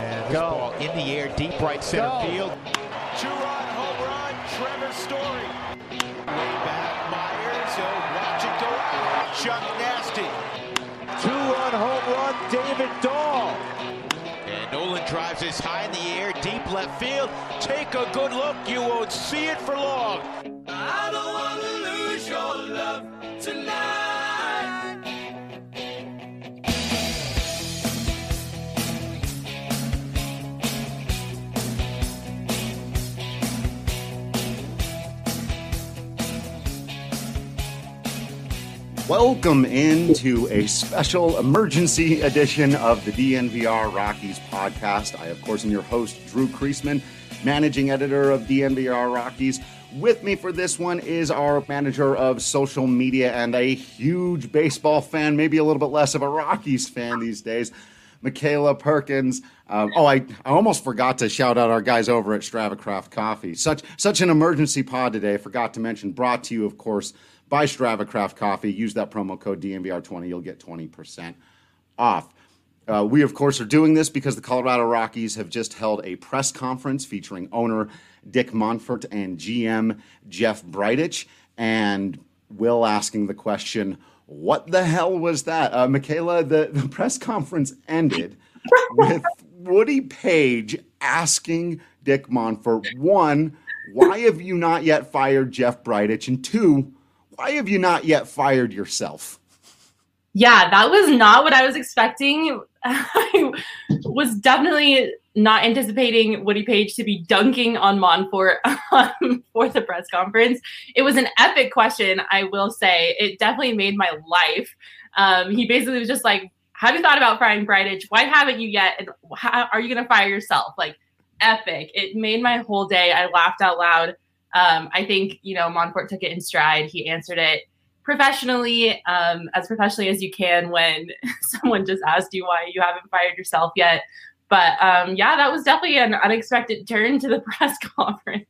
And this ball in the air, deep right center field. Two-run home run, Trevor Story. Way back, Myers, watch it go out. Chuck Nasty. Two-run home run, David Dahl. And Nolan drives this high in the air, deep left field. Take a good look, you won't see it for long. I don't want to lose your love tonight. Welcome into a special emergency edition of the DNVR Rockies podcast. I, of course, am your host, Drew Creasman, managing editor of DNVR Rockies. With me for this one is our manager of social media and a huge baseball fan, maybe a little bit less of a Rockies fan these days, Michaela Perkins. I almost forgot to shout out our guys over at StravaCraft Coffee. Such an emergency pod today. I forgot to mention, brought to you, of course, by StravaCraft Coffee. Use that promo code DNVR20. You'll get 20% off. We, of course, are doing this because the Colorado Rockies have just held a press conference featuring owner Dick Monfort and GM Jeff Bridich. And Will asking the question, what the hell was that? Michaela, the press conference ended with Woody Page asking Dick Monfort, one, why have you not yet fired Jeff Bridich? And two, why have you not yet fired yourself? Yeah, that was not what I was expecting. I was definitely not anticipating Woody Page to be dunking on Monfort for the press conference. It was an epic question, I will say. It definitely made my life. He basically was just like, have you thought about firing Bridich? Why haven't you yet? And how are you going to fire yourself? Like, epic. It made my whole day. I laughed out loud. I think, Monfort took it in stride. He answered it professionally as you can when someone just asked you why you haven't fired yourself yet. But that was definitely an unexpected turn to the press conference.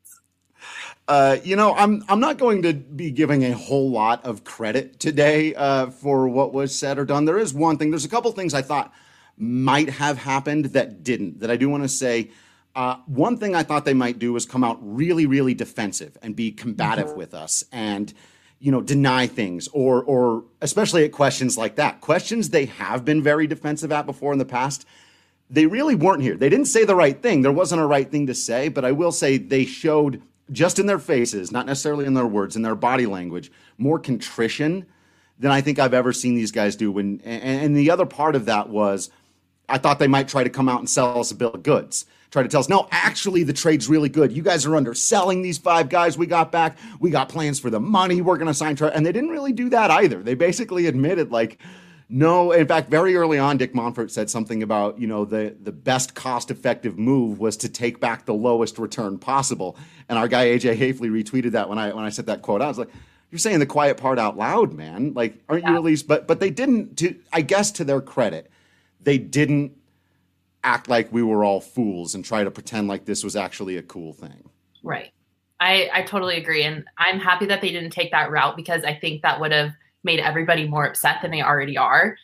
I'm not going to be giving a whole lot of credit today for what was said or done. There is one thing. There's a couple things I thought might have happened that didn't, that I do want to say. One thing I thought they might do was come out really, really defensive and be combative with us and, deny things or especially at questions like that. Questions they have been very defensive at before in the past. They really weren't here. They didn't say the right thing. There wasn't a right thing to say, but I will say they showed just in their faces, not necessarily in their words, in their body language, more contrition than I think I've ever seen these guys do. And the other part of that was I thought they might try to come out and sell us a bill of goods. Try to tell us, no, actually, the trade's really good. You guys are underselling these 5 guys we got back. We got plans for the money we're going to sign. And they didn't really do that either. They basically admitted, no. In fact, very early on, Dick Monfort said something about, the best cost-effective move was to take back the lowest return possible. And our guy, AJ Hafley, retweeted that when I said that quote. I was like, you're saying the quiet part out loud, man. Aren't you at least? But they didn't, I guess to their credit, they didn't act like we were all fools and try to pretend like this was actually a cool thing. Right. I totally agree. And I'm happy that they didn't take that route because I think that would have made everybody more upset than they already are.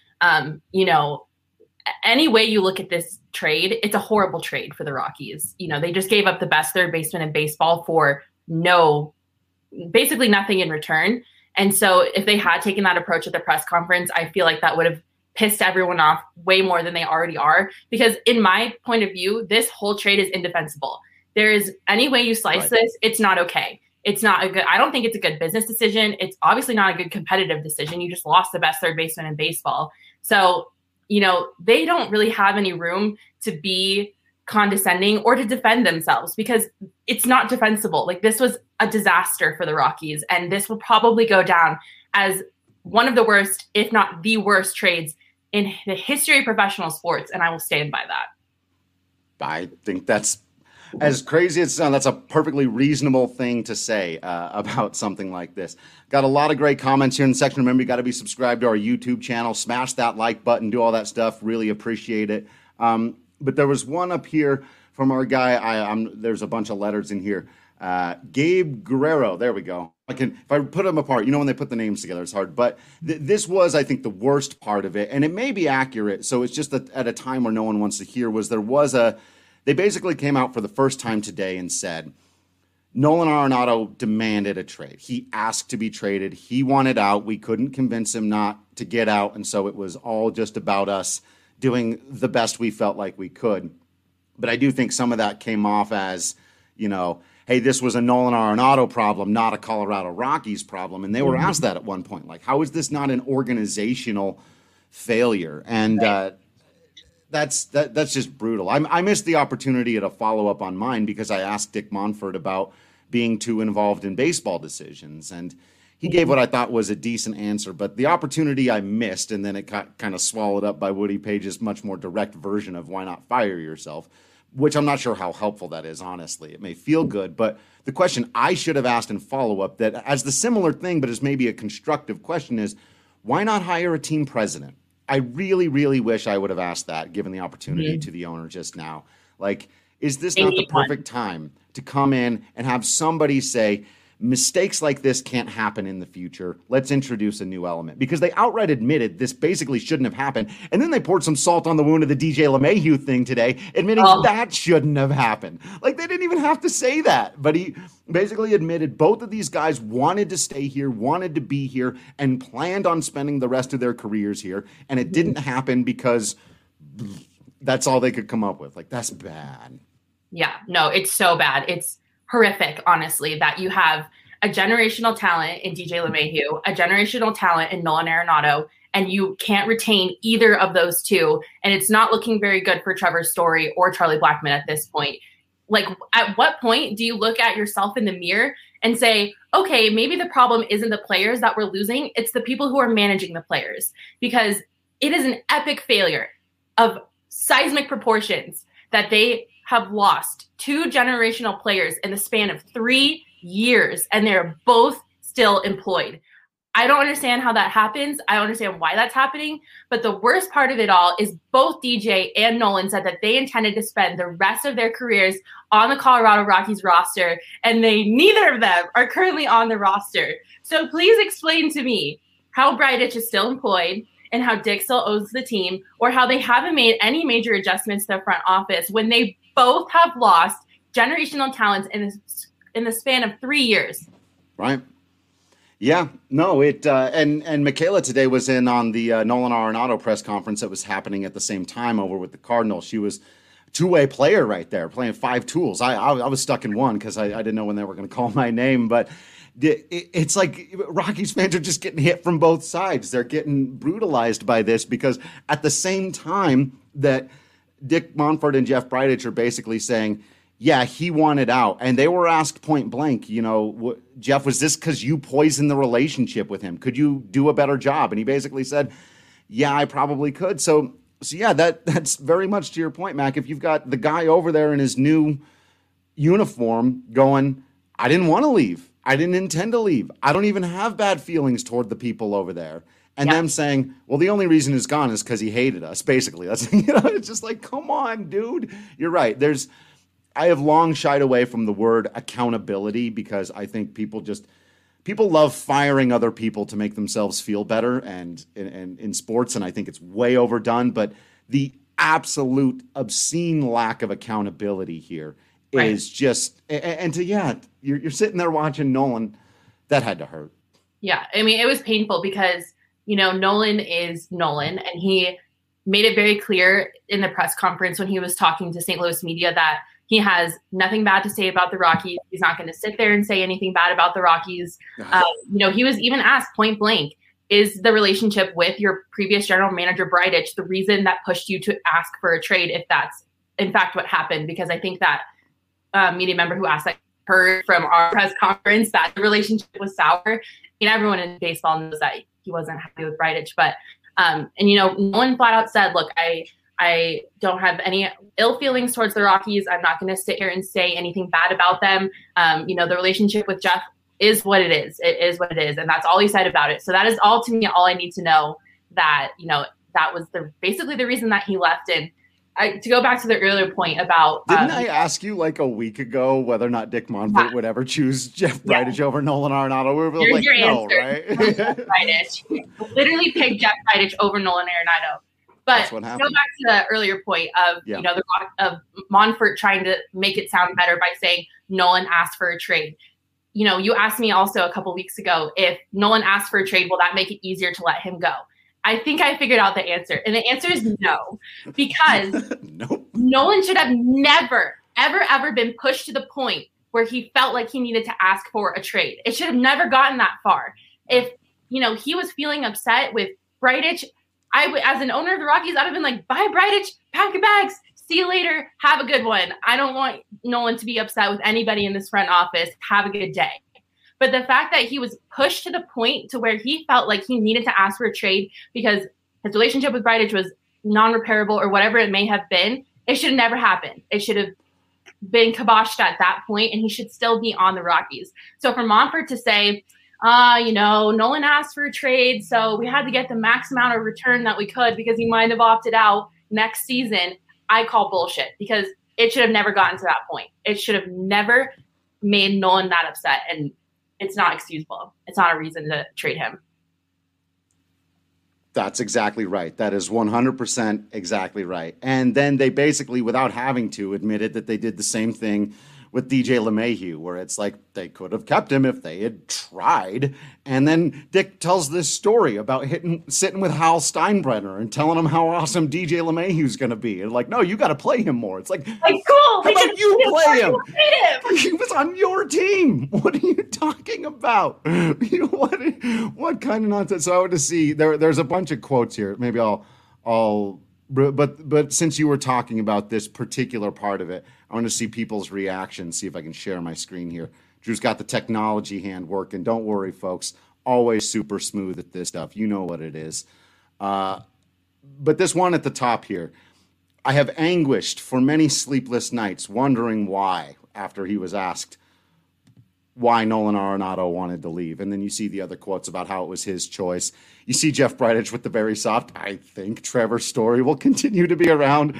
Any way you look at this trade, it's a horrible trade for the Rockies. They just gave up the best third baseman in baseball for basically nothing in return. And so if they had taken that approach at the press conference, I feel like that would have pissed everyone off way more than they already are. Because in my point of view, this whole trade is indefensible. There is any way you slice this, it's not okay. It's not I don't think it's a good business decision. It's obviously not a good competitive decision. You just lost the best third baseman in baseball. So, they don't really have any room to be condescending or to defend themselves because it's not defensible. This was a disaster for the Rockies. And this will probably go down as one of the worst, if not the worst trades in the history of professional sports. And I will stand by that. I think that's, as crazy as it sounds, that's a perfectly reasonable thing to say about something like this. Got a lot of great comments here in the section. Remember, you got to be subscribed to our YouTube channel. Smash that like button. Do all that stuff. Really appreciate it. But there was one up here from our guy. There's a bunch of letters in here. Gabe Guerrero. There we go. If I put them apart, when they put the names together, it's hard. But this was, I think, the worst part of it, and it may be accurate. So it's just that at a time where no one wants to hear they basically came out for the first time today and said, Nolan Arenado demanded a trade. He asked to be traded. He wanted out. We couldn't convince him not to get out. And so it was all just about us doing the best we felt like we could. But I do think some of that came off as, hey, this was a Nolan Arenado problem, not a Colorado Rockies problem. And they were asked that at one point. Like, how is this not an organizational failure? And that's just brutal. I missed the opportunity at a follow-up on mine because I asked Dick Monfort about being too involved in baseball decisions. And he gave what I thought was a decent answer. But the opportunity I missed, and then it got kind of swallowed up by Woody Page's much more direct version of why not fire yourself, which I'm not sure how helpful that is, honestly. It may feel good, but the question I should have asked in follow-up that as the similar thing, but as maybe a constructive question is, why not hire a team president? I really, really wish I would have asked that, given the opportunity to the owner just now. Like, is this not the perfect time to come in and have somebody say, mistakes like this can't happen in the future. Let's introduce a new element. Because they outright admitted this basically shouldn't have happened. And then they poured some salt on the wound of the DJ LeMahieu thing today, admitting that shouldn't have happened. Like, they didn't even have to say that. But he basically admitted both of these guys wanted to stay here, wanted to be here, and planned on spending the rest of their careers here. And it didn't happen because that's all they could come up with. Like, that's bad. Yeah, no, it's so bad. It's horrific, honestly, that you have a generational talent in DJ LeMahieu, a generational talent in Nolan Arenado, and you can't retain either of those two. And it's not looking very good for Trevor Story or Charlie Blackmon at this point. Like, at what point do you look at yourself in the mirror and say, okay, maybe the problem isn't the players that we're losing, it's the people who are managing the players, because it is an epic failure of seismic proportions that they have lost two generational players in the span of 3 years, and they're both still employed. I don't understand how that happens. I don't understand why that's happening. But the worst part of it all is both DJ and Nolan said that they intended to spend the rest of their careers on the Colorado Rockies roster, and neither of them are currently on the roster. So please explain to me how Bridich is still employed and how Dick still owes the team, or how they haven't made any major adjustments to the front office when they both have lost generational talents in the span of 3 years. Right. Yeah. No, and Michaela today was in on the Nolan Arenado press conference that was happening at the same time over with the Cardinals. She was a two-way player right there, playing 5 tools. I was stuck in one because I didn't know when they were going to call my name, but it's like Rockies fans are just getting hit from both sides. They're getting brutalized by this because at the same time that Dick Monfort and Jeff Bridich are basically saying, yeah, he wanted out. And they were asked point blank, Jeff, was this because you poisoned the relationship with him? Could you do a better job? And he basically said, yeah, I probably could. So yeah, that's very much to your point, Mac. If you've got the guy over there in his new uniform going, I didn't want to leave. I didn't intend to leave. I don't even have bad feelings toward the people over there. And them saying, well, the only reason he's gone is because he hated us. Basically, that's it's just like, come on, dude. You're right. I have long shied away from the word accountability because I think people love firing other people to make themselves feel better, and in sports, and I think it's way overdone. But the absolute obscene lack of accountability here is just, you're sitting there watching Nolan. That had to hurt. Yeah, I mean, it was painful because Nolan is Nolan, and he made it very clear in the press conference when he was talking to St. Louis media that he has nothing bad to say about the Rockies. He's not going to sit there and say anything bad about the Rockies. He was even asked point blank, is the relationship with your previous general manager, Bridich, the reason that pushed you to ask for a trade, if that's in fact what happened? Because I think that media member who asked that heard from our press conference that the relationship was sour. Everyone in baseball knows that he wasn't happy with Bridich, but Nolan flat out said, look, I don't have any ill feelings towards the Rockies. I'm not going to sit here and say anything bad about them. The relationship with Jeff is what it is. It is what it is. And that's all he said about it. So that is all to me, all I need to know, that, that was basically the reason that he left. And to go back to the earlier point about didn't I ask you like a week ago whether or not Dick Monfort would ever choose Jeff Bridich over Nolan Arenado? We were like, your no, answer. right? Jeff Bridich. Literally picked Jeff Bridich over Nolan Arenado. But to go back to the earlier point of of Monfort trying to make it sound better by saying Nolan asked for a trade. You asked me also a couple weeks ago, if Nolan asked for a trade, will that make it easier to let him go? I think I figured out the answer. And the answer is no, because nope. Nolan should have never, ever been pushed to the point where he felt like he needed to ask for a trade. It should have never gotten that far. If, he was feeling upset with Bridich, as an owner of the Rockies, I'd have been like, bye, Bridich, pack your bags. See you later. Have a good one. I don't want Nolan to be upset with anybody in this front office. Have a good day. But the fact that he was pushed to the point to where he felt like he needed to ask for a trade because his relationship with Bridich was non-repairable or whatever it may have been, it should have never happened. It should have been kiboshed at that point, and he should still be on the Rockies. So for Monfort to say, Nolan asked for a trade, so we had to get the max amount of return that we could because he might have opted out next season, I call bullshit, because it should have never gotten to that point. It should have never made Nolan that upset, and it's not excusable. It's not a reason to trade him. That's exactly right. That is 100% exactly right. And then they basically, without having to, admitted that they did the same thing with DJ LeMahieu, where it's like they could have kept him if they had tried. And then Dick tells this story about sitting with Hal Steinbrenner and telling him how awesome DJ LeMahieu's going to be. And like, no, you got to play him more. It's like cool. How about you play him? He was on your team. What are you talking about? What kind of nonsense? So I want to see there's a bunch of quotes here. Maybe but since you were talking about this particular part of it, I want to see people's reactions, see if I can share my screen here. Drew's got the technology hand working. Don't worry, folks. Always super smooth at this stuff. You know what it is. But this one at the top here, I have anguished for many sleepless nights wondering why, after he was asked why Nolan Arenado wanted to leave. And then you see the other quotes about how it was his choice. You see Jeff Bridich with the very soft, I think Trevor Story will continue to be around.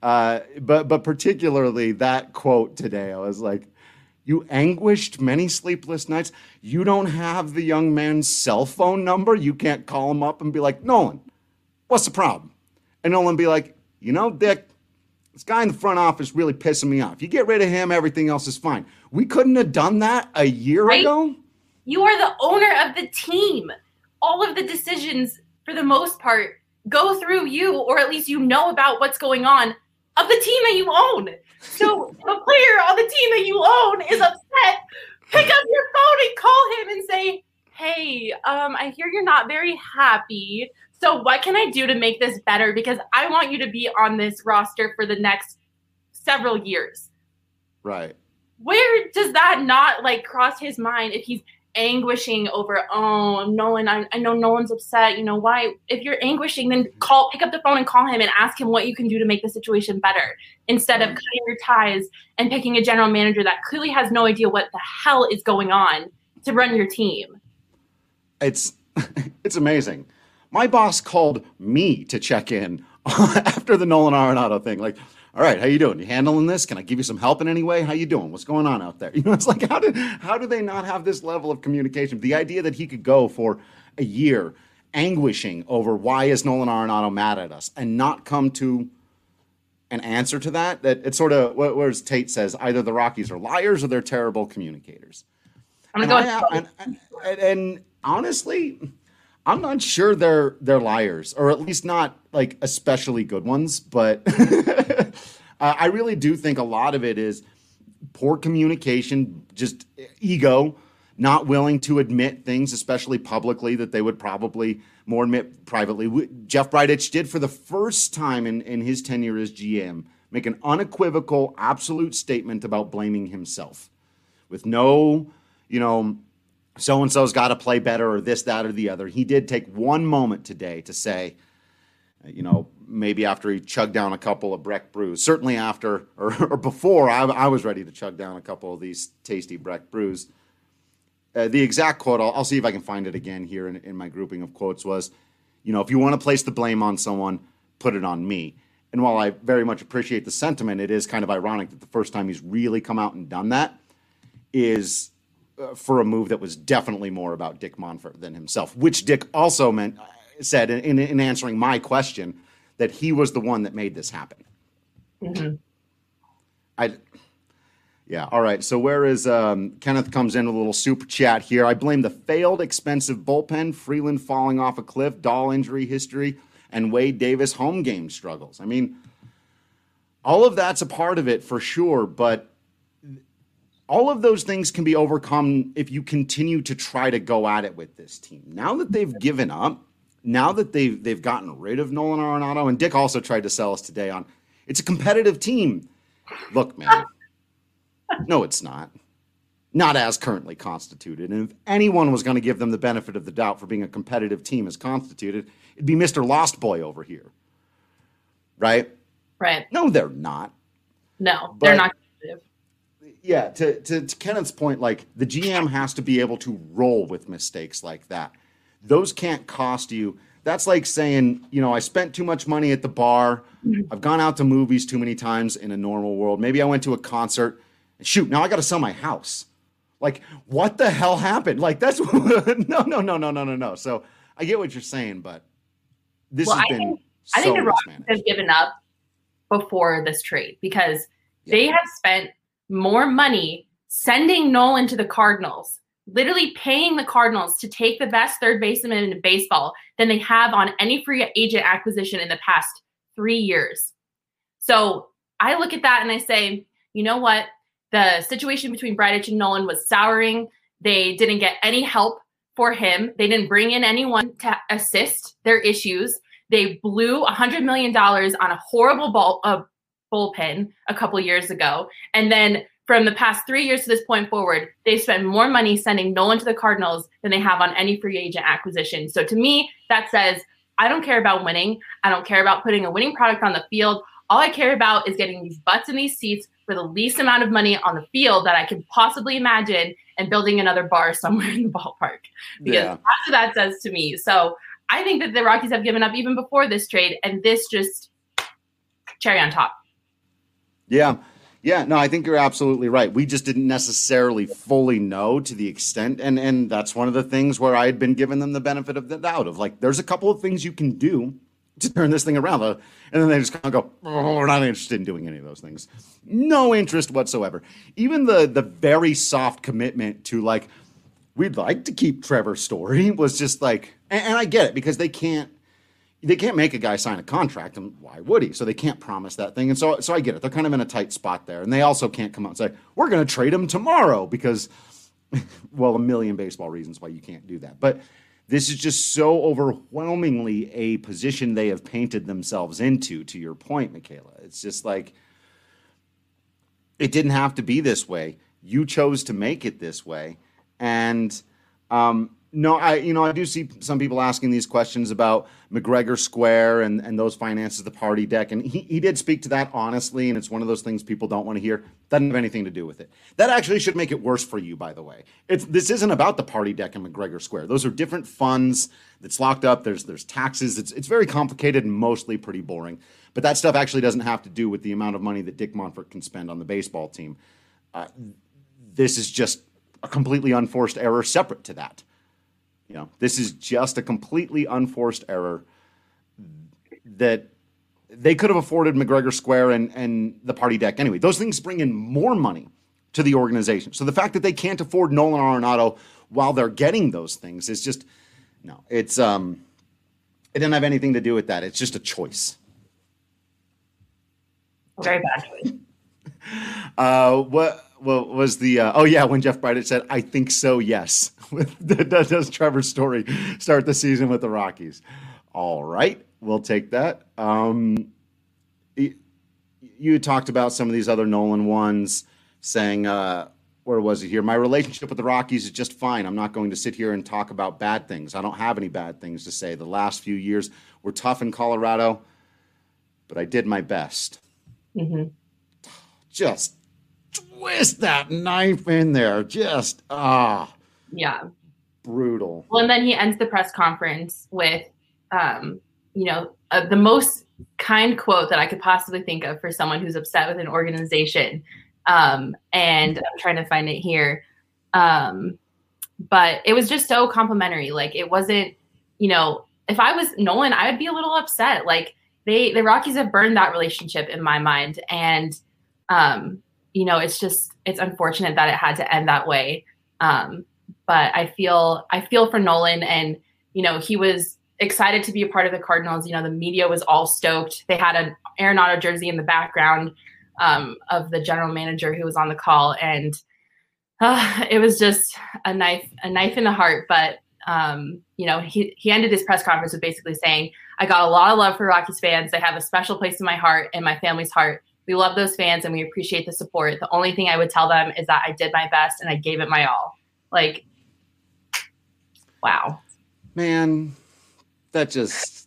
But particularly that quote today, I was like, you anguished many sleepless nights. You don't have the young man's cell phone number. You can't call him up and be like, Nolan, what's the problem? And Nolan be like, Dick, this guy in the front office really pissing me off. You get rid of him, everything else is fine. We couldn't have done that a year ago. You are the owner of the team. All of the decisions, for the most part, go through you, or at least about what's going on of the team that you own. So if a player on the team that you own is upset, pick up your phone and call him and say, hey, I hear you're not very happy. So what can I do to make this better? Because I want you to be on this roster for the next several years. Right. Where does that not cross his mind if he's anguishing over, Nolan, I know Nolan's upset. Why? If you're anguishing, then pick up the phone and call him and ask him what you can do to make the situation better, instead of cutting your ties and picking a general manager that clearly has no idea what the hell is going on to run your team. It's amazing. My boss called me to check in after the Nolan Arenado thing. Like, all right, how you doing? You handling this? Can I give you some help in any way? How you doing? What's going on out there? It's like, how do they not have this level of communication? The idea that he could go for a year anguishing over why is Nolan Arenado mad at us and not come to an answer to that it's sort of, whereas Tate says, either the Rockies are liars or they're terrible communicators. And honestly, I'm not sure they're liars, or at least not especially good ones. But I really do think a lot of it is poor communication, just ego, not willing to admit things, especially publicly, that they would probably more admit privately. Jeff Bridich did, for the first time in his tenure as GM, make an unequivocal, absolute statement about blaming himself, with no, so-and-so's got to play better, or this, that, or the other. He did take one moment today to say, maybe after he chugged down a couple of Breck brews, certainly after or before I was ready to chug down a couple of these tasty Breck brews. The exact quote, I'll see if I can find it again here in my grouping of quotes, was, if you want to place the blame on someone, put it on me. And while I very much appreciate the sentiment, it is kind of ironic that the first time he's really come out and done that is for a move that was definitely more about Dick Monfort than himself, which Dick also said in answering my question that he was the one that made this happen. Mm-hmm. Yeah. All right. So where is Kenneth comes in with a little super chat here. I blame the failed expensive bullpen, Freeland falling off a cliff, Dahl injury history, and Wade Davis home game struggles. I mean, all of that's a part of it for sure, but all of those things can be overcome if you continue to try to go at it with this team. Now that they've given up, now that they've gotten rid of Nolan Arenado, and Dick also tried to sell us today on it's a competitive team. Look, man, no, it's not. Not as currently constituted. And if anyone was going to give them the benefit of the doubt for being a competitive team as constituted, it'd be Mr. Lost Boy over here. Right? Right. No, they're not. No, they're not competitive. Yeah, to Kenneth's point, like the GM has to be able to roll with mistakes like that. Those can't cost you. That's like saying, I spent too much money at the bar. I've gone out to movies too many times in a normal world. Maybe I went to a concert. And shoot, now I got to sell my house. Like, what the hell happened? Like, that's no. So I get what you're saying, but this has been I think the Rockies mismanaged. have given up before this trade because they have spent more money sending Nolan to the Cardinals, literally paying the Cardinals to take the best third baseman in baseball than they have on any free agent acquisition in the past 3 years. So I look at that and I say, you know what? The situation between Bridich and Nolan was souring. They didn't get any help for him. They didn't bring in anyone to assist their issues. They blew $100 million on a horrible bullpen a couple years ago. And then from the past 3 years to this point forward, they've spent more money sending Nolan to the Cardinals than they have on any free agent acquisition. So to me, that says, I don't care about winning. I don't care about putting a winning product on the field. All I care about is getting these butts in these seats for the least amount of money on the field that I can possibly imagine and building another bar somewhere in the ballpark. Because that's what that says to me. So I think that the Rockies have given up even before this trade, and this just cherry on top. Yeah. Yeah, no, I think you're absolutely right. We just didn't necessarily fully know to the extent, and that's one of the things where I had been giving them the benefit of the doubt of like, there's a couple of things you can do to turn this thing around. And then they just kind of go, we're not interested in doing any of those things. No interest whatsoever. Even the very soft commitment to like, we'd like to keep Trevor Story was just like, and I get it because they can't make a guy sign a contract, and why would he? So they can't promise that thing. And so I get it. They're kind of in a tight spot there. And they also can't come out and say, we're going to trade him tomorrow because, well, a million baseball reasons why you can't do that. But this is just so overwhelmingly a position they have painted themselves into, to your point, Michaela. It's just like, it didn't have to be this way. You chose to make it this way. And, no, I do see some people asking these questions about McGregor Square and those finances, the party deck. And he did speak to that honestly, and it's one of those things people don't want to hear. Doesn't have anything to do with it. That actually should make it worse for you, by the way. This isn't about the party deck and McGregor Square. Those are different funds that's locked up. There's taxes. It's very complicated and mostly pretty boring. But that stuff actually doesn't have to do with the amount of money that Dick Monfort can spend on the baseball team. This is just a completely unforced error separate to that. This is just a completely unforced error that they could have afforded McGregor Square and the party deck anyway. Those things bring in more money to the organization. So the fact that they can't afford Nolan Arenado while they're getting those things is just, no, it's, it didn't have anything to do with that. It's just a choice. Very bad choice. What was the when Jeff Bridich said, I think so, yes. Does Trevor Story start the season with the Rockies? All right, we'll take that. You talked about some of these other Nolan ones saying, where was it here? My relationship with the Rockies is just fine. I'm not going to sit here and talk about bad things. I don't have any bad things to say. The last few years were tough in Colorado, but I did my best. Mm-hmm. Just twist that knife in there. Just, yeah. Brutal. Well, and then he ends the press conference with, the most kind quote that I could possibly think of for someone who's upset with an organization. And I'm trying to find it here. But it was just so complimentary. Like, it wasn't, if I was Nolan, I would be a little upset. Like, the Rockies have burned that relationship in my mind. And, it's unfortunate that it had to end that way. But I feel for Nolan, and, he was excited to be a part of the Cardinals. The media was all stoked. They had an Arenado jersey in the background of the general manager who was on the call. And it was just a knife in the heart. But, he ended his press conference with basically saying, I got a lot of love for Rockies fans. They have a special place in my heart and my family's heart. We love those fans and we appreciate the support. The only thing I would tell them is that I did my best and I gave it my all. Like, wow. Man, it's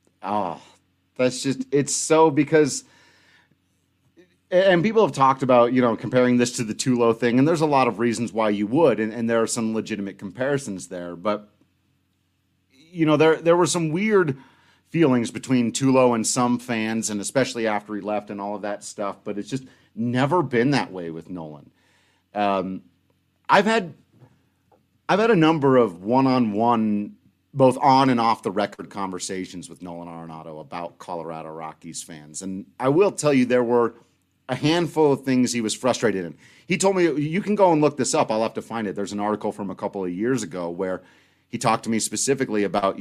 so, because, and people have talked about, comparing this to the Tulo thing, and there's a lot of reasons why you would, and there are some legitimate comparisons there, but, there were some weird feelings between Tulo and some fans, and especially after he left and all of that stuff, but it's just never been that way with Nolan. I've had a number of one-on-one, both on and off the record conversations with Nolan Arenado about Colorado Rockies fans. And I will tell you, there were a handful of things he was frustrated in. He told me, you can go and look this up. I'll have to find it. There's an article from a couple of years ago where he talked to me specifically about,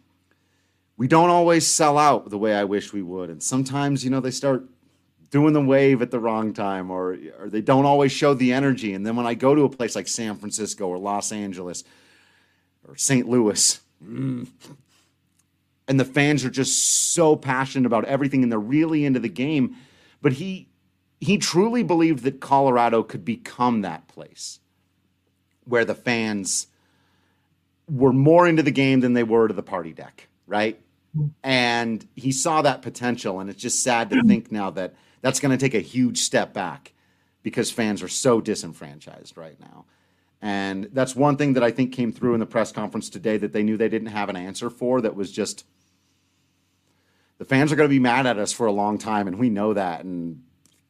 we don't always sell out the way I wish we would. And sometimes, they start doing the wave at the wrong time, or they don't always show the energy. And then when I go to a place like San Francisco or Los Angeles or St. Louis, and the fans are just so passionate about everything and they're really into the game. But he truly believed that Colorado could become that place where the fans were more into the game than they were to the party deck, right? And he saw that potential, and it's just sad to think now that that's going to take a huge step back because fans are so disenfranchised right now. And that's one thing that I think came through in the press conference today that they knew they didn't have an answer for, that was just, the fans are going to be mad at us for a long time, and we know that. And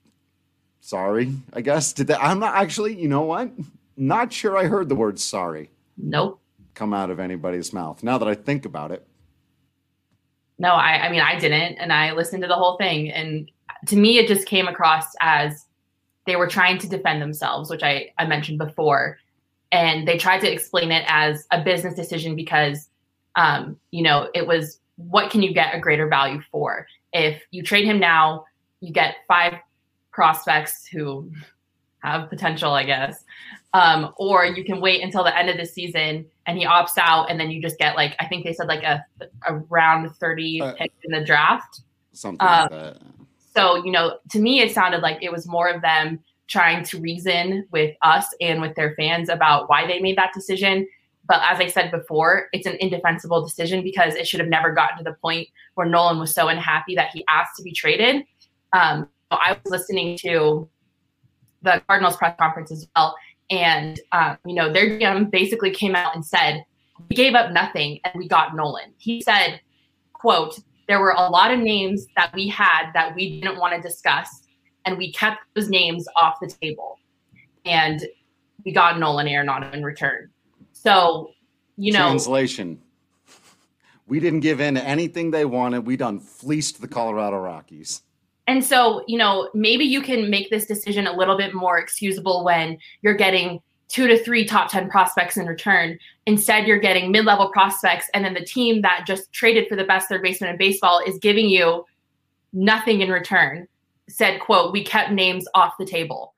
sorry, I guess. I'm not actually, you know what? Not sure I heard the word sorry. Nope. Come out of anybody's mouth. Now that I think about it. No, I mean, I didn't. And I listened to the whole thing. And to me, it just came across as they were trying to defend themselves, which I mentioned before. And they tried to explain it as a business decision because, it was, what can you get a greater value for? If you trade him now, you get 5 prospects who have potential, I guess. Or you can wait until the end of the season and he opts out, and then you just get, like, I think they said like a round 30 pick in the draft. Something like that. So, to me, it sounded like it was more of them trying to reason with us and with their fans about why they made that decision. But as I said before, it's an indefensible decision because it should have never gotten to the point where Nolan was so unhappy that he asked to be traded. I was listening to the Cardinals press conference as well. And, their GM basically came out and said, we gave up nothing and we got Nolan. He said, quote, there were a lot of names that we had that we didn't want to discuss, and we kept those names off the table. And we got Nolan Arenado in return. So, Translation. We didn't give in to anything they wanted. We done fleeced the Colorado Rockies. And so, maybe you can make this decision a little bit more excusable when you're getting 2 to 3 top 10 prospects in return. Instead, you're getting mid-level prospects, and then the team that just traded for the best third baseman in baseball is giving you nothing in return. Said, quote, we kept names off the table.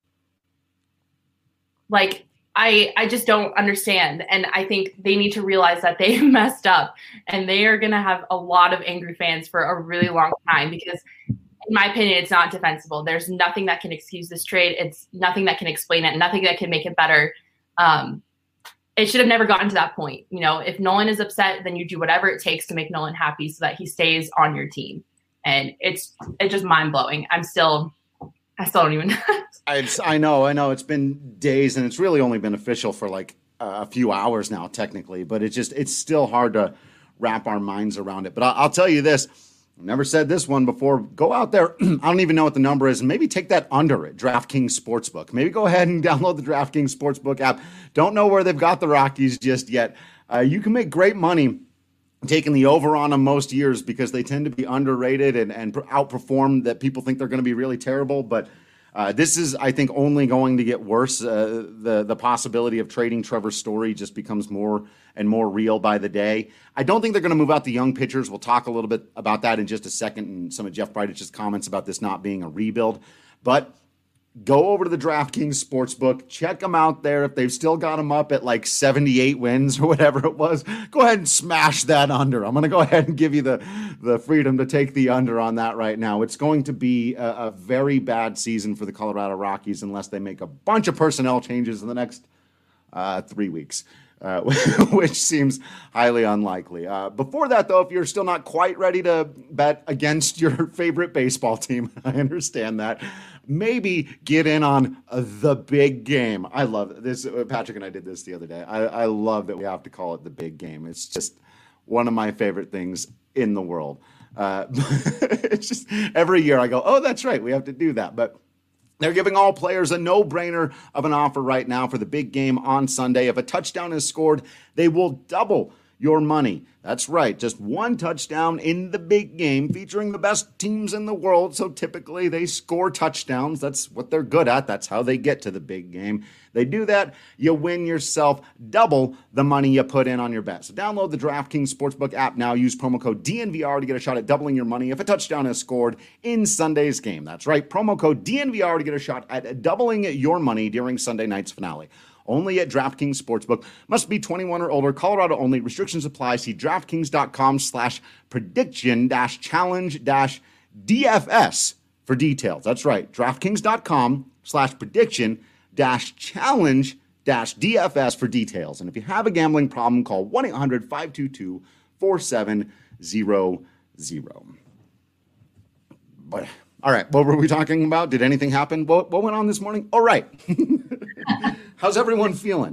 Like, I just don't understand. And I think they need to realize that they messed up, and they are going to have a lot of angry fans for a really long time because, in my opinion, it's not defensible. There's nothing that can excuse this trade. It's nothing that can explain it, nothing that can make it better. It should have never gotten to that point. If Nolan is upset, then you do whatever it takes to make Nolan happy so that he stays on your team. And it's just mind blowing. I still don't even. I know. It's been days, and it's really only been official for like a few hours now, technically. But it's still hard to wrap our minds around it. But I'll tell you this: Never said this one before. Go out there. I don't even know what the number is. And maybe take that under at DraftKings Sportsbook. Maybe go ahead and download the DraftKings Sportsbook app. Don't know where they've got the Rockies just yet. You can make great money taking the over on them most years because they tend to be underrated and outperform that people think they're going to be really terrible. But this is, I think, only going to get worse. The possibility of trading Trevor Story just becomes more and more real by the day. I don't think they're going to move out the young pitchers. We'll talk a little bit about that in just a second and some of Jeff Bridich's comments about this not being a rebuild. But go over to the DraftKings Sportsbook. Check them out there. If they've still got them up at like 78 wins or whatever it was, go ahead and smash that under. I'm going to go ahead and give you the freedom to take the under on that right now. It's going to be a very bad season for the Colorado Rockies unless they make a bunch of personnel changes in the next 3 weeks. Which seems highly unlikely. Before that, though, if you're still not quite ready to bet against your favorite baseball team, I understand that. Maybe get in on the big game. I love this. Patrick and I did this the other day. I love that we have to call it the big game. It's just one of my favorite things in the world. It's just every year I go, oh, that's right, we have to do that. But they're giving all players a no-brainer of an offer right now for the big game on Sunday. If a touchdown is scored, they will double your money. That's right, just one touchdown in the big game featuring the best teams in the world. So typically they score touchdowns. That's what they're good at. That's how they get to the big game. They do that, you win yourself double the money you put in on your bet. So download the DraftKings Sportsbook app now. Use promo code DNVR to get a shot at doubling your money if a touchdown is scored in Sunday's game. That's right, promo code DNVR to get a shot at doubling your money during Sunday night's finale. Only at DraftKings Sportsbook. Must be 21 or older. Colorado only. Restrictions apply. See DraftKings.com/prediction-challenge-DFS for details. That's right. DraftKings.com/prediction-challenge-DFS for details. And if you have a gambling problem, call 1-800-522-4700. But all right, what were we talking about? Did anything happen? What went on this morning? All right. How's everyone feeling?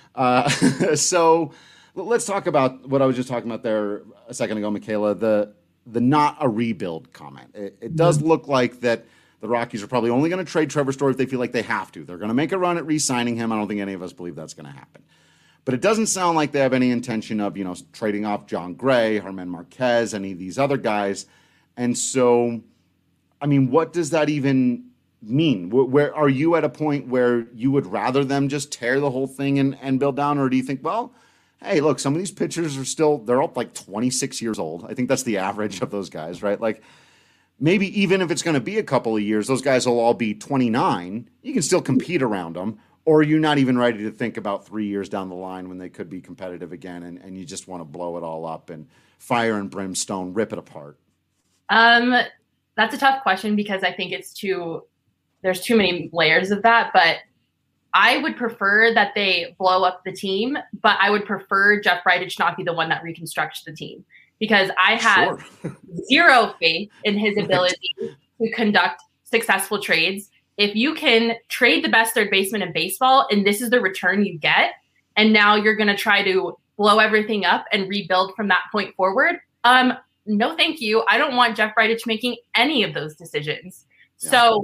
So let's talk about what I was just talking about there a second ago, Michaela, the not a rebuild comment. It does look like that the Rockies are probably only going to trade Trevor Story if they feel like they have to. They're going to make a run at re-signing him. I don't think any of us believe that's going to happen. But it doesn't sound like they have any intention of, trading off John Gray, Germán Marquez, any of these other guys. And so, I mean, what does that even mean? Where are you at a point where you would rather them just tear the whole thing and build down? Or do you think, well, hey, look, some of these pitchers they're all like 26 years old. I think that's the average of those guys, right? Like maybe even if it's going to be a couple of years, those guys will all be 29. You can still compete around them. Or are you not even ready to think about 3 years down the line when they could be competitive again and you just want to blow it all up and fire and brimstone, rip it apart? That's a tough question because I think there's too many layers of that, but I would prefer that they blow up the team, but I would prefer Jeff Bridich not be the one that reconstructs the team because I have zero faith in his ability to conduct successful trades. If you can trade the best third baseman in baseball and this is the return you get, and now you're going to try to blow everything up and rebuild from that point forward, no, thank you. I don't want Jeff Bridich making any of those decisions. Yeah. So,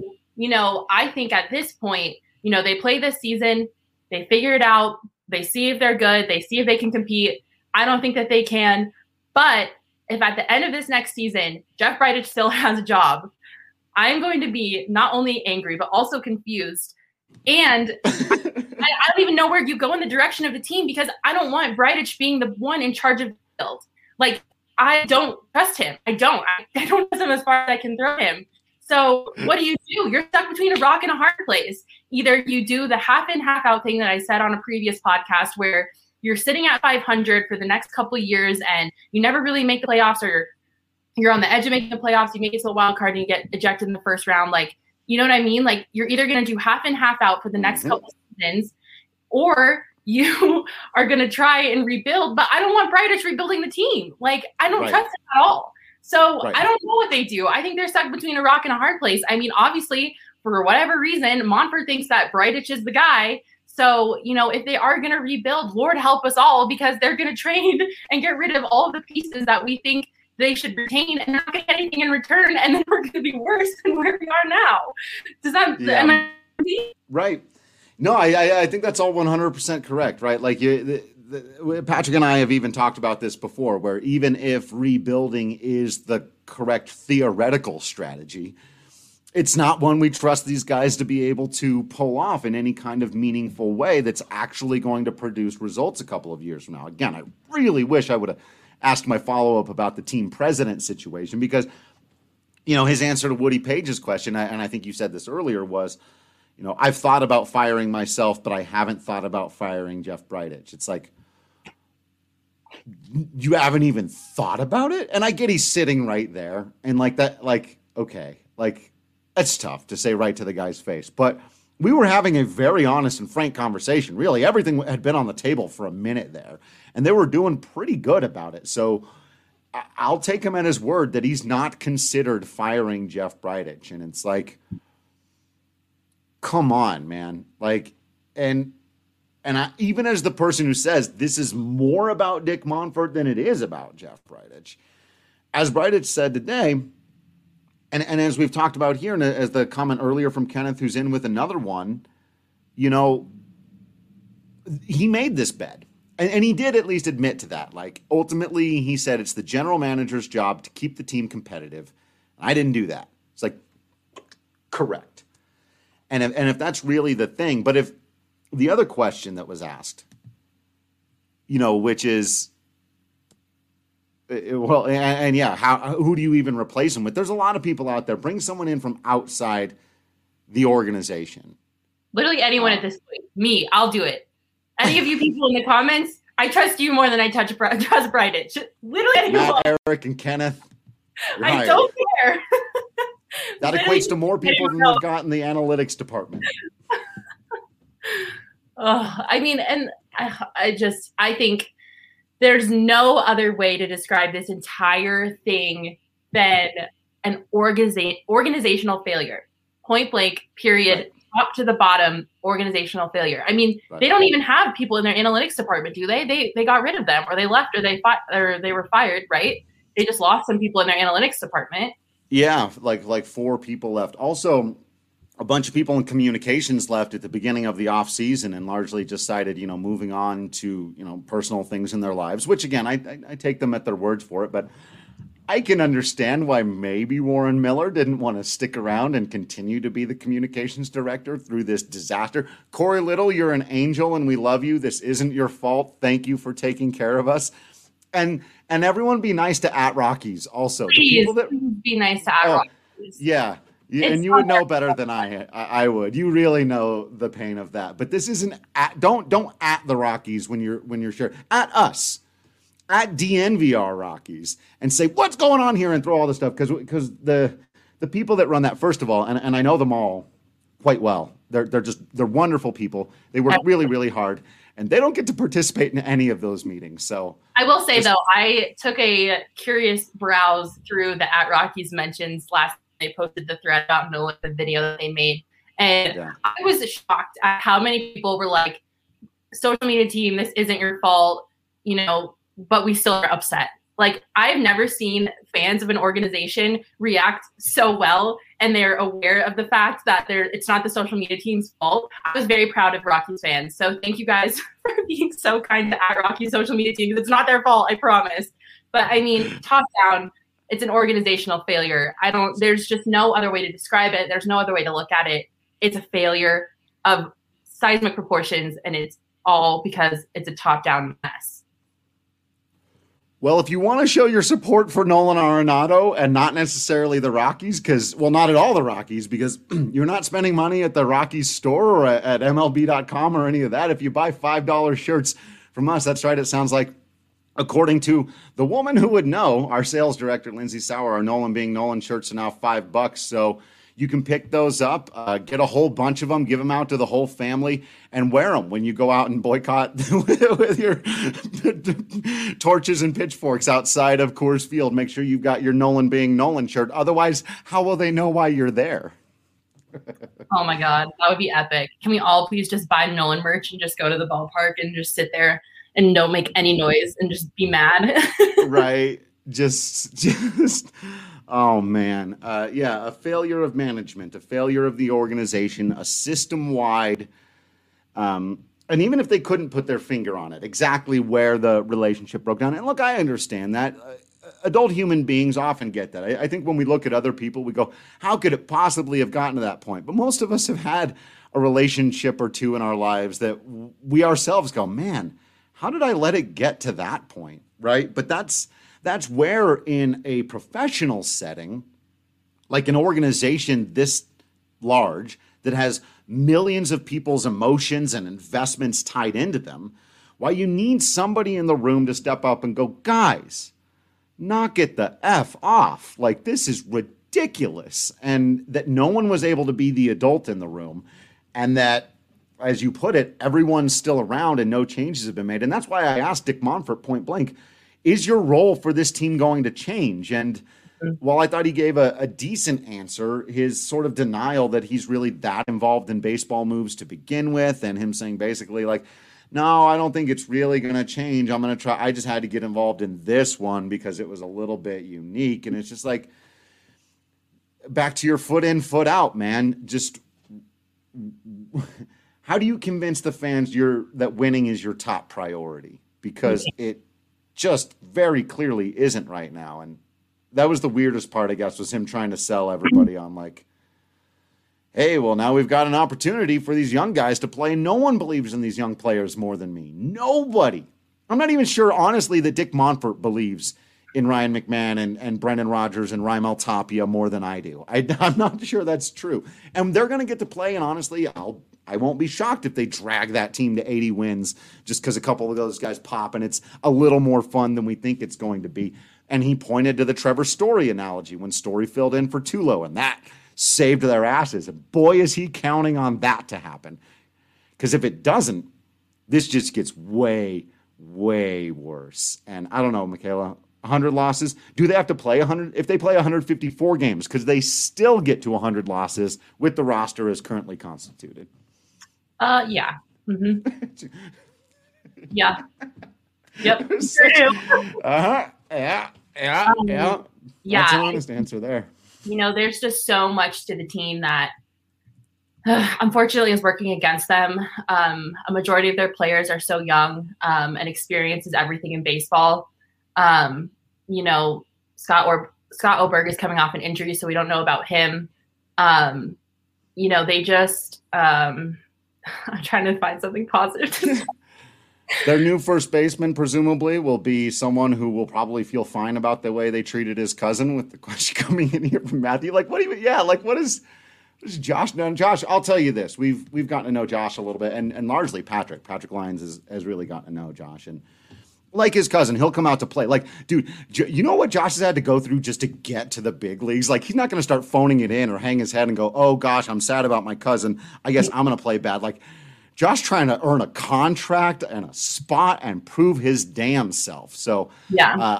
I think at this point, they play this season, they figure it out, they see if they're good, they see if they can compete. I don't think that they can. But if at the end of this next season, Jeff Bridich still has a job, I'm going to be not only angry, but also confused. And I don't even know where you go in the direction of the team because I don't want Bridich being the one in charge of the field. Like, I don't trust him. I don't trust him as far as I can throw him. So what do? You're stuck between a rock and a hard place. Either you do the half in, half out thing that I said on a previous podcast where you're sitting at 500 for the next couple of years and you never really make the playoffs, or you're on the edge of making the playoffs, you make it to the wild card and you get ejected in the first round. Like, you know what I mean? Like, you're either going to do half in, half out for the next couple of seasons, or you are going to try and rebuild. But I don't want Bridich rebuilding the team. Like, I don't trust him at all. So I don't know what they do. I think they're stuck between a rock and a hard place. I mean, obviously, for whatever reason, Monfort thinks that Bridich is the guy. So, if they are going to rebuild, Lord help us all, because they're going to trade and get rid of all of the pieces that we think they should retain and not get anything in return, and then we're going to be worse than where we are now. Does that? Yeah. Am I right? No, I think that's all 100% correct, right? Like Patrick and I have even talked about this before, where even if rebuilding is the correct theoretical strategy, it's not one we trust these guys to be able to pull off in any kind of meaningful way that's actually going to produce results a couple of years from now. Again, I really wish I would have asked my follow-up about the team president situation, because, his answer to Woody Page's question, and I think you said this earlier, was, I've thought about firing myself, but I haven't thought about firing Jeff Bridich. It's like, you haven't even thought about it? And I get he's sitting right there, and okay, that's tough to say right to the guy's face. But we were having a very honest and frank conversation. Really, everything had been on the table for a minute there, and they were doing pretty good about it. So I'll take him at his word that he's not considered firing Jeff Bridich. And it's like, come on, man. And even as the person who says this is more about Dick Monfort than it is about Jeff Bridich, as Bridich said today, and as we've talked about here, and as the comment earlier from Kenneth, who's in with another one, he made this bed. And he did at least admit to that. Ultimately, he said it's the general manager's job to keep the team competitive. I didn't do that. It's like, correct. And if that's really the thing, but if the other question that was asked, which is, who do you even replace him with? There's a lot of people out there. Bring someone in from outside the organization. Literally anyone at this point. Me, I'll do it. Any of you people in the comments, I trust you more than I trust Bridich. Literally anyone. Matt, Eric, and Kenneth. I don't care. That equates to more people than we've got in the analytics department. I think there's no other way to describe this entire thing than an organizational failure. Point blank, period, right. Top to the bottom, organizational failure. I mean, right. They don't even have people in their analytics department, do they? They got rid of them, or they left, or they were fired, right? They just lost some people in their analytics department. Yeah, like 4 people left. Also, a bunch of people in communications left at the beginning of the off season and largely decided, moving on to, personal things in their lives, which again, I take them at their words for it, but I can understand why maybe Warren Miller didn't want to stick around and continue to be the communications director through this disaster. Corey Little, you're an angel and we love you. This isn't your fault. Thank you for taking care of us. And everyone be nice to @Rockies also. Please be nice to @Rockies. Yeah. And you would know better than I would. You really know the pain of that. But this isn't don't @ the Rockies when you're sure. @ us. @ DNVR Rockies and say what's going on here and throw all this stuff because the people that run that, first of all, and I know them all quite well. They're wonderful people. They work really, really hard, and they don't get to participate in any of those meetings. So I will say though, I took a curious browse through the @Rockies mentions last. They posted the thread about Nolan, the video that they made, and I was shocked at how many people were like, "Social media team, this isn't your fault," but we still are upset. Like, I've never seen fans of an organization react so well, and they're aware of the fact that it's not the social media team's fault. I was very proud of Rockies fans. So thank you guys for being so kind to @Rockies social media team, because it's not their fault, I promise. But I mean, top down, it's an organizational failure. There's just no other way to describe it. There's no other way to look at it. It's a failure of seismic proportions, and it's all because it's a top-down mess. Well, if you want to show your support for Nolan Arenado and not necessarily the Rockies, not at all the Rockies, because you're not spending money at the Rockies store or at MLB.com or any of that. If you buy $5 shirts from us, that's right, it sounds like, according to the woman who would know, our sales director, Lindsay Sauer, our Nolan being Nolan shirts are now $5. So you can pick those up, get a whole bunch of them, give them out to the whole family, and wear them when you go out and boycott with your torches and pitchforks outside of Coors Field. Make sure you've got your Nolan being Nolan shirt. Otherwise, how will they know why you're there? Oh my God, that would be epic. Can we all please just buy Nolan merch and just go to the ballpark and just sit there and don't make any noise and just be mad? Right. just, oh man. Yeah, a failure of management, a failure of the organization, a system-wide, and even if they couldn't put their finger on it, exactly where the relationship broke down. And look, I understand that. Adult human beings often get that. I think when we look at other people, we go, how could it possibly have gotten to that point? But most of us have had a relationship or two in our lives that we ourselves go, man, how did I let it get to that point, right? But that's where in a professional setting, like an organization this large that has millions of people's emotions and investments tied into them, why you need somebody in the room to step up and go, guys, knock it the F off. Like, this is ridiculous. And that no one was able to be the adult in the room. And that, as you put it, everyone's still around and no changes have been made. And that's why I asked Dick Monfort point blank, is your role for this team going to change? And while I thought he gave a decent answer, his sort of denial that he's really that involved in baseball moves to begin with, and him saying basically like, no, I don't think it's really going to change. I'm going to try. I just had to get involved in this one because it was a little bit unique. And it's just like, back to your foot in, foot out, man. Just how do you convince the fans that winning is your top priority? Because it just very clearly isn't right now. And that was the weirdest part, I guess, was him trying to sell everybody on like, hey, well, now we've got an opportunity for these young guys to play. No one believes in these young players more than me. Nobody. I'm not even sure, honestly, that Dick Monfort believes in Ryan McMahon and Brendan Rodgers and Raimel Tapia more than I do. I'm not sure that's true. And they're going to get to play, and honestly, I won't be shocked if they drag that team to 80 wins just because a couple of those guys pop, and it's a little more fun than we think it's going to be. And he pointed to the Trevor Story analogy when Story filled in for Tulo, and that saved their asses. And boy, is he counting on that to happen. Because if it doesn't, this just gets way, way worse. And I don't know, Michaela, 100 losses. Do they have to play 100? If they play 154 games, because they still get to 100 losses with the roster as currently constituted. Yeah. Mm-hmm. Yeah. Yep. Sure do. Uh-huh. Yeah. That's an honest answer there. There's just so much to the team that unfortunately is working against them. A majority of their players are so young, and experience is everything in baseball. Scott Oberg is coming off an injury, so we don't know about him. They just I'm trying to find something positive. Their new first baseman presumably will be someone who will probably feel fine about the way they treated his cousin, with the question coming in here from Matthew. Like, what is Josh done? Josh, I'll tell you this. We've gotten to know Josh a little bit, and largely Patrick. Patrick Lyons has really gotten to know Josh. And like his cousin, he'll come out to play. Like, dude, you know what Josh has had to go through just to get to the big leagues? Like, he's not going to start phoning it in or hang his head and go, oh gosh, I'm sad about my cousin. I guess I'm going to play bad. Like, Josh trying to earn a contract and a spot and prove his damn self. So, yeah.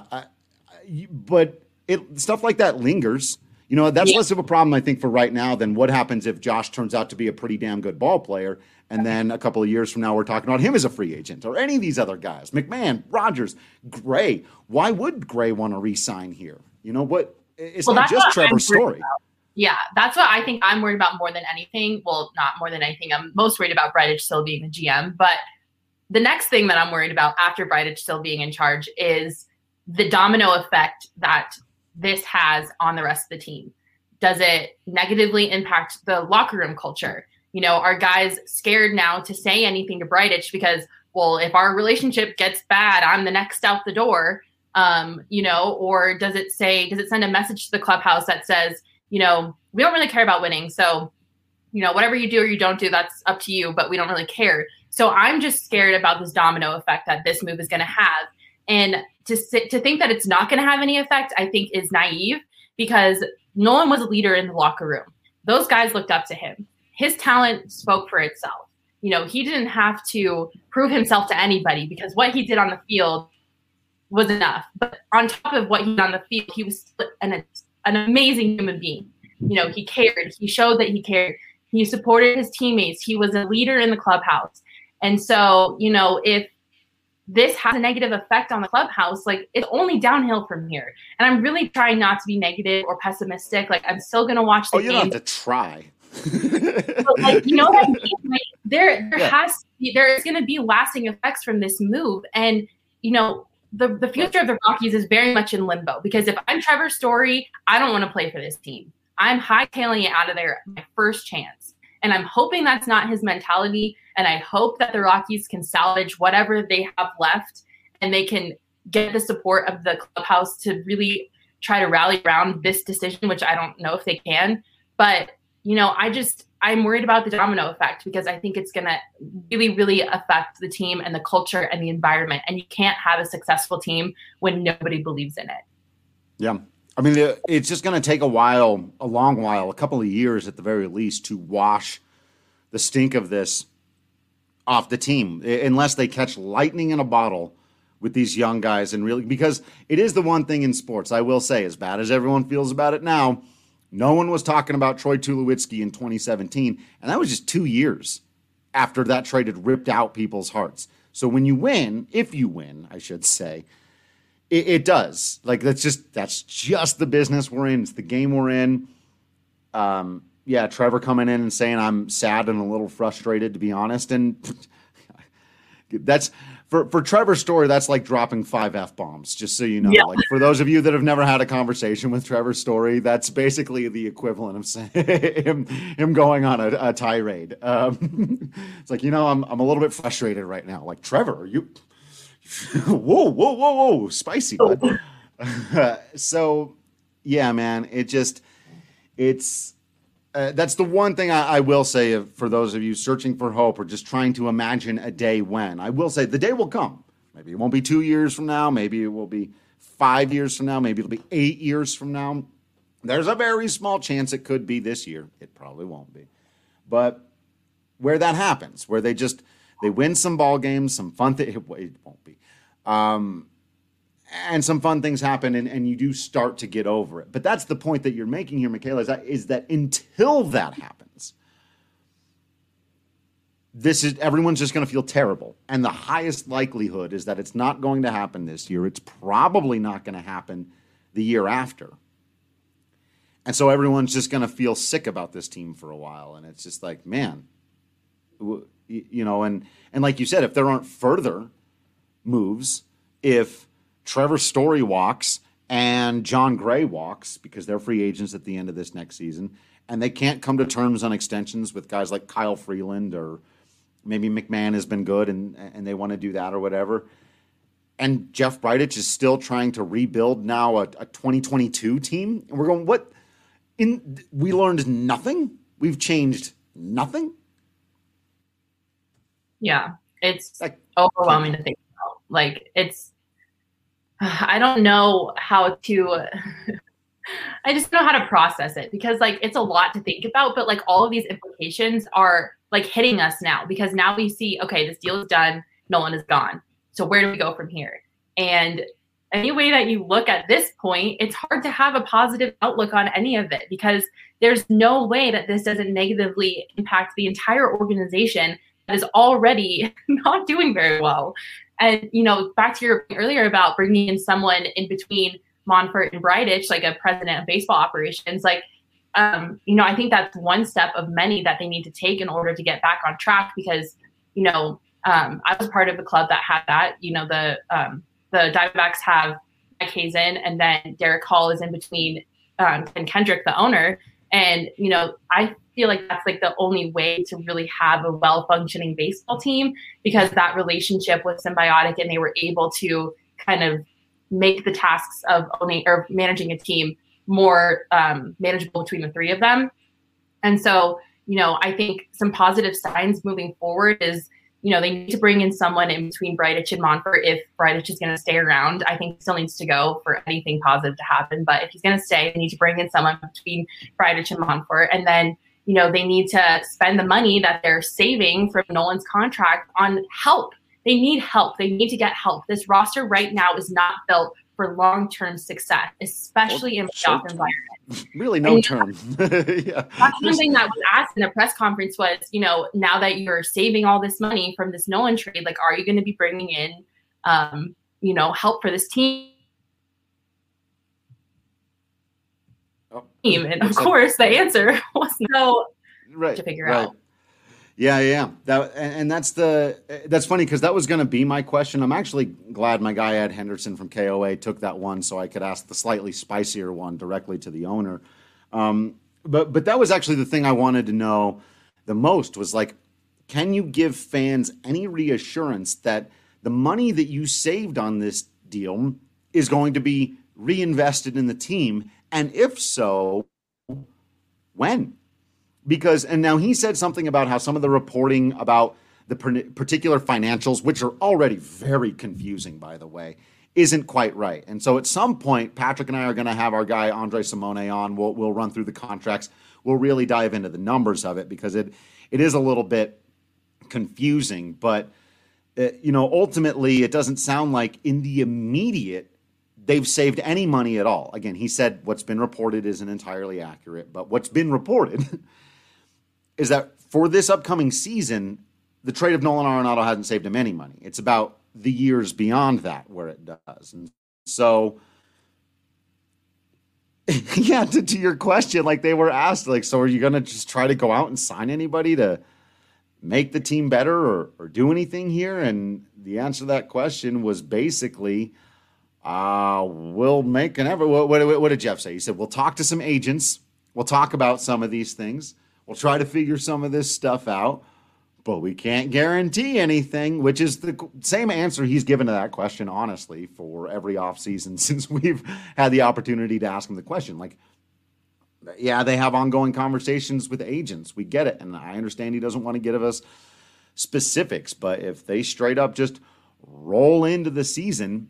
But stuff like that lingers. That's less of a problem, I think, for right now than what happens if Josh turns out to be a pretty damn good ball player. And then a couple of years from now, we're talking about him as a free agent, or any of these other guys. McMahon, Rodgers, Gray. Why would Gray want to re-sign here? It's not just Trevor Story. Yeah, that's what I think I'm worried about more than anything. Well, not more than anything. I'm most worried about Bridich still being the GM. But the next thing that I'm worried about after Bridich still being in charge is the domino effect that this has on the rest of the team. Does it negatively impact the locker room culture? Are guys scared now to say anything to Bridich because, well, if our relationship gets bad, I'm the next out the door, or does it send a message to the clubhouse that says, we don't really care about winning. So, whatever you do or you don't do, that's up to you, but we don't really care. So I'm just scared about this domino effect that this move is going to have. And to think that it's not going to have any effect, I think is naive, because Nolan was a leader in the locker room. Those guys looked up to him. His talent spoke for itself. He didn't have to prove himself to anybody because what he did on the field was enough. But on top of what he did on the field, he was an amazing human being. He cared. He showed that he cared. He supported his teammates. He was a leader in the clubhouse. And so, if this has a negative effect on the clubhouse. Like, it's only downhill from here. And I'm really trying not to be negative or pessimistic. Like, I'm still going to watch the game. You don't have to try. But, like, you know what I mean? Like, there is going to be lasting effects from this move. And, you know, the future of the Rockies is very much in limbo, because if I'm Trevor Story, I don't want to play for this team. I'm hightailing it out of there my first chance. And I'm hoping that's not his mentality. And I hope that the Rockies can salvage whatever they have left, and they can get the support of the clubhouse to really try to rally around this decision, which I don't know if they can. But, you know, I'm worried about the domino effect, because I think it's going to really, really affect the team and the culture and the environment. And you can't have a successful team when nobody believes in it. Yeah. I mean, it's just going to take a long while, a couple of years at the very least, to wash the stink of this off the team, unless they catch lightning in a bottle with these young guys. And really, because it is the one thing in sports, I will say, as bad as everyone feels about it now, no one was talking about Troy Tulowitzki in 2017, and that was just 2 years after that trade had ripped out people's hearts. So when you win, if you win, I should say, it does. Like, that's just the business we're in. It's the game we're in. Yeah, Trevor coming in and saying I'm sad and a little frustrated, to be honest. And that's for Trevor's Story, that's like dropping 5 F-bombs, just so you know. Yeah. Like, for those of you that have never had a conversation with Trevor Story, that's basically the equivalent of saying him going on a tirade. It's like, you know, I'm a little bit frustrated right now. Like, Trevor, are you... whoa, spicy, bud. So, yeah, man, that's the one thing I will say for those of you searching for hope or just trying to imagine a day when. I will say the day will come. Maybe it won't be 2 years from now. Maybe it will be 5 years from now. Maybe it'll be 8 years from now. There's a very small chance it could be this year. It probably won't be. But where that happens, where they win some ball games, some fun things, it won't be. And some fun things happen, and you do start to get over it. But that's the point that you're making here, Michaela, is that until that happens, everyone's just going to feel terrible. And the highest likelihood is that it's not going to happen this year. It's probably not going to happen the year after. And so everyone's just going to feel sick about this team for a while. And it's just like, man, you know, and like you said, if there aren't further moves, if Trevor Story walks and John Gray walks, because they're free agents at the end of this next season, and they can't come to terms on extensions with guys like Kyle Freeland, or maybe McMahon has been good and they want to do that or whatever. And Jeff Bridich is still trying to rebuild now a 2022 team. And we're going, what? We learned nothing? We've changed nothing? Yeah, it's overwhelming to think about. Like, I don't know how to, I just don't know how to process it, because like, it's a lot to think about, but like all of these implications are like hitting us now, because now we see, okay, this deal is done. Nolan is gone. So where do we go from here? And any way that you look at this point, it's hard to have a positive outlook on any of it, because there's no way that this doesn't negatively impact the entire organization that is already not doing very well. And, you know, back to your point earlier about bringing in someone in between Monfort and Bridich, like a president of baseball operations, like, you know, I think that's one step of many that they need to take in order to get back on track, because, you know, I was part of a club that had that. You know, the Diamondbacks have Mike Hazen, and then Derek Hall is in between Ken Kendrick, the owner. And, you know, I feel like that's like the only way to really have a well-functioning baseball team, because that relationship was symbiotic, and they were able to kind of make the tasks of owning or managing a team more manageable between the three of them. And so, you know, I think some positive signs moving forward is, you know, they need to bring in someone in between Bridich and Monfort. If Bridich is going to stay around, I think he still needs to go for anything positive to happen. But if he's going to stay, they need to bring in someone between Bridich and Monfort. And then, you know, they need to spend the money that they're saving from Nolan's contract on help. They need help. They need to get help. This roster right now is not built for long-term success, especially in playoff environment. Really no term. Yeah. That's one thing that was asked in the press conference was, you know, now that you're saving all this money from this Nolan trade, like, are you going to be bringing in help for this team. And of course, the answer was no. Right. To figure out. Yeah. That's funny because that was going to be my question. I'm actually glad my guy Ed Henderson from KOA took that one so I could ask the slightly spicier one directly to the owner. But that was actually the thing I wanted to know the most was like, can you give fans any reassurance that the money that you saved on this deal is going to be reinvested in the team? And if so, when? Because, and now he said something about how some of the reporting about the particular financials, which are already very confusing, by the way, isn't quite right. And so at some point, Patrick and I are going to have our guy Andre Simone on. We'll run through the contracts. We'll really dive into the numbers of it because it is a little bit confusing. But, ultimately, it doesn't sound like in the immediate they've saved any money at all. Again, he said what's been reported isn't entirely accurate, but what's been reported is that for this upcoming season, the trade of Nolan Arenado hasn't saved him any money. It's about the years beyond that where it does. And so, yeah, to your question, like they were asked, like, so are you going to just try to go out and sign anybody to make the team better or do anything here? And the answer to that question was basically, we'll make an effort. What did Jeff say? He said, we'll talk to some agents. We'll talk about some of these things. We'll try to figure some of this stuff out, but we can't guarantee anything, which is the same answer he's given to that question, honestly, for every offseason since we've had the opportunity to ask him the question. Like, yeah, they have ongoing conversations with agents. We get it. And I understand he doesn't want to give us specifics, but if they straight up just roll into the season,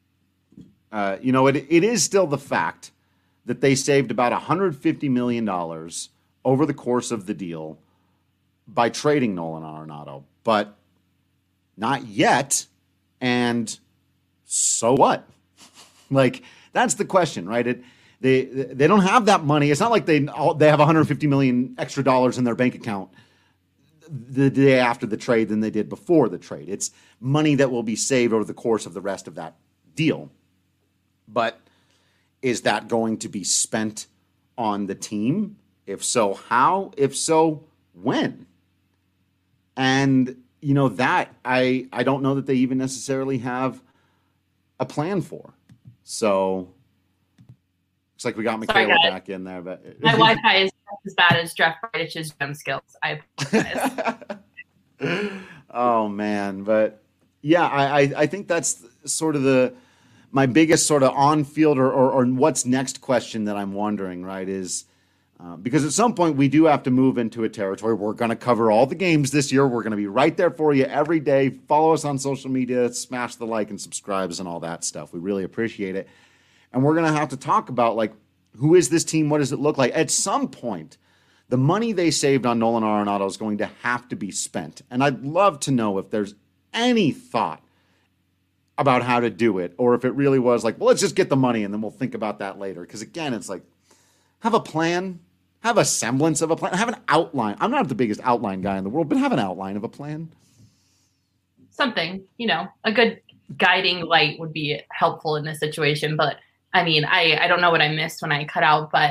it is still the fact that they saved about $150 million over the course of the deal by trading Nolan Arenado, but not yet. And so what? Like, that's the question, right? They don't have that money. It's not like they have $150 million extra dollars in their bank account the day after the trade than they did before the trade. It's money that will be saved over the course of the rest of that deal. But is that going to be spent on the team? If so, how? If so, when? And, that I don't know that they even necessarily have a plan for. So, looks like we got Michaela back in there. But my Wi-Fi is as bad as Jeff Bridges' gem skills. I apologize. Oh, man. But, yeah, I think that's sort of my biggest sort of on-field or what's next question that I'm wondering, right, is because at some point we do have to move into a territory. We're going to cover all the games this year. We're going to be right there for you every day. Follow us on social media, smash the like and subscribes and all that stuff. We really appreciate it. And we're going to have to talk about, like, who is this team? What does it look like? At some point, the money they saved on Nolan Arenado is going to have to be spent. And I'd love to know if there's any thought about how to do it, or if it really was like, well, let's just get the money and then we'll think about that later. Because again, it's like, have a plan, have a semblance of a plan, have an outline. I'm not the biggest outline guy in the world, but have an outline of a plan. Something, a good guiding light would be helpful in this situation. But I mean, I don't know what I missed when I cut out, but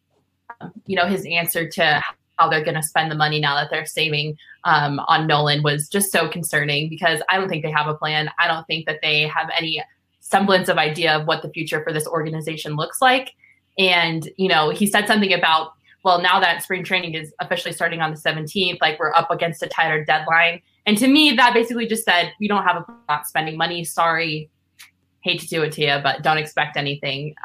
his answer to how they're going to spend the money now that they're saving on Nolan was just so concerning, because I don't think they have a plan. I don't think that they have any semblance of idea of what the future for this organization looks like. And, he said something about, well, now that spring training is officially starting on the 17th, like we're up against a tighter deadline. And to me, that basically just said, we don't have a plan, not spending money. Sorry, hate to do it to you, but don't expect anything.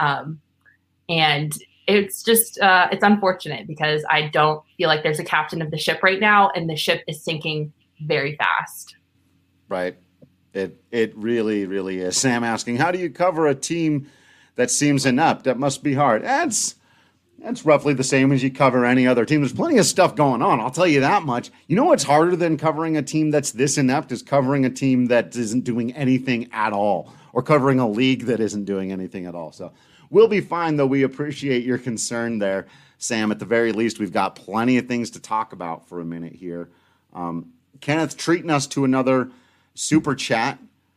And it's just, it's unfortunate because I don't feel like there's a captain of the ship right now, and the ship is sinking very fast. Right. It really, really is. Sam asking, how do you cover a team that seems inept? That must be hard. That's roughly the same as you cover any other team. There's plenty of stuff going on, I'll tell you that much. You know what's harder than covering a team that's this inept is covering a team that isn't doing anything at all, or covering a league that isn't doing anything at all. So we'll be fine, though. We appreciate your concern there, Sam. At the very least, we've got plenty of things to talk about for a minute here. Kenneth treating us to another super chat.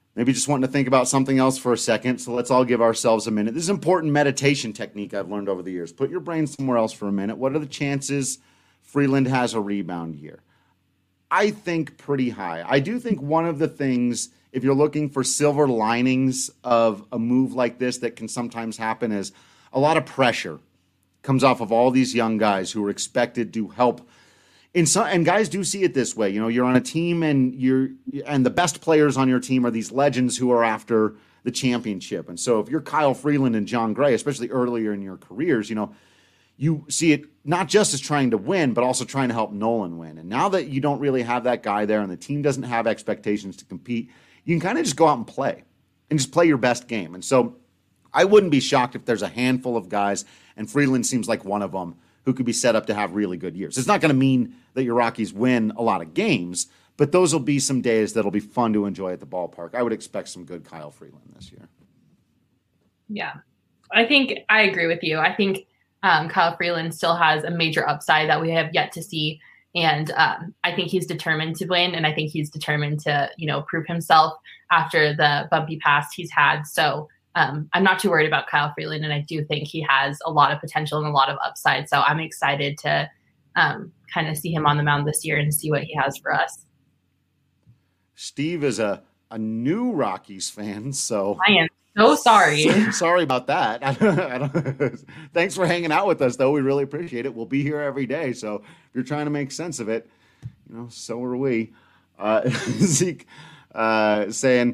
maybe just wanting to think about something else for a second. So let's all give ourselves a minute. This is an important meditation technique I've learned over the years. Put your brain somewhere else for a minute. What are the chances Freeland has a rebound year? I think pretty high. I do think one of the things, if you're looking for silver linings of a move like this that can sometimes happen, is a lot of pressure comes off of all these young guys who are expected to help. And guys do see it this way. You know, you're on a team and the best players on your team are these legends who are after the championship. And so if you're Kyle Freeland and John Gray, especially earlier in your careers, you know, you see it not just as trying to win, but also trying to help Nolan win. And now that you don't really have that guy there and the team doesn't have expectations to compete, you can kind of just go out and play your best game. And so I wouldn't be shocked if there's a handful of guys, and Freeland seems like one of them, who could be set up to have really good years. It's not going to mean that your Rockies win a lot of games, but those will be some days that'll be fun to enjoy at the ballpark. I would expect some good Kyle Freeland this year. Yeah, I think I agree with you. I think Kyle Freeland still has a major upside that we have yet to see. And I think he's determined to win. And I think he's determined to, prove himself after the bumpy past he's had. So I'm not too worried about Kyle Freeland. And I do think he has a lot of potential and a lot of upside. So I'm excited to kind of see him on the mound this year and see what he has for us. Steve is a new Rockies fan. So I am so sorry. Sorry about that. Thanks for hanging out with us, though. We really appreciate it. We'll be here every day. So if you're trying to make sense of it, so are we. Zeke saying,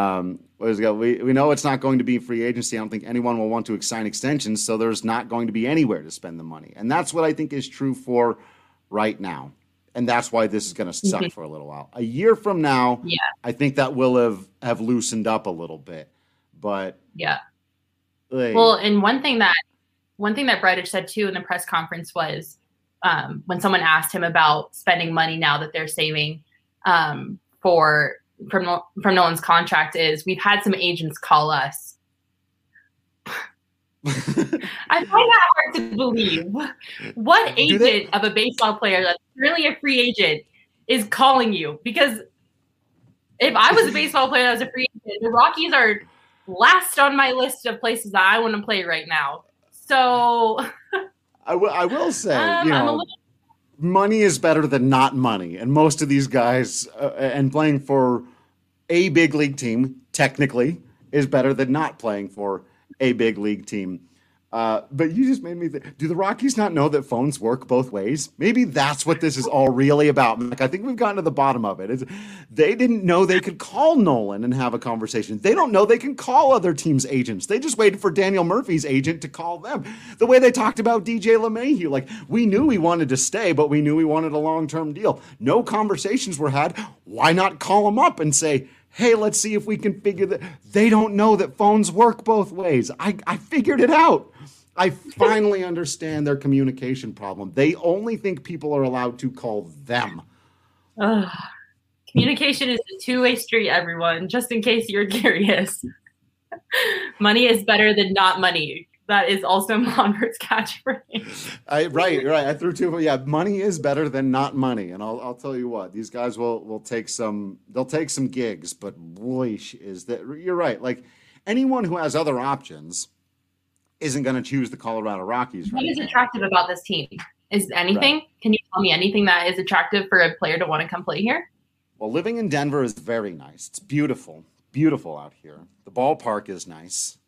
we know it's not going to be free agency. I don't think anyone will want to sign extensions, so there's not going to be anywhere to spend the money. And that's what I think is true for right now. And that's why this is going to suck for a little while. A year from now, I think that will have loosened up a little bit. But yeah. Well, and one thing that Bridich said too in the press conference was when someone asked him about spending money now that they're saving from Nolan's contract, is we've had some agents call us. I find that hard to believe. What agent of a baseball player that's really a free agent is calling you? Because if I was a baseball player that was a free agent, the Rockies are last on my list of places that I want to play right now. So I will say, money is better than not money. And most of these guys and playing for a big league team technically is better than not playing for a big league team. But you just made me think, do the Rockies not know that phones work both ways? Maybe that's what this is all really about. Like, I think we've gotten to the bottom of it. They didn't know they could call Nolan and have a conversation. They don't know they can call other teams' agents. They just waited for Daniel Murphy's agent to call them. The way they talked about DJ LeMahieu, like, we knew he wanted to stay, but we knew he wanted a long-term deal. No conversations were had. Why not call him up and say, hey, let's see if we can figure that. They don't know that phones work both ways. I figured it out. I finally understand their communication problem. They only think people are allowed to call them. Communication is a two-way street, everyone, just in case you're curious. Money is better than not money. That is also Monford's catchphrase. Right. I threw two. Yeah, money is better than not money. And I'll tell you what, these guys will take some. They'll take some gigs, but boy, is that you're right. Like, anyone who has other options isn't going to choose the Colorado Rockies. What is attractive about this team? Is anything? Right. Can you tell me anything that is attractive for a player to want to come play here? Well, living in Denver is very nice. It's beautiful out here. The ballpark is nice.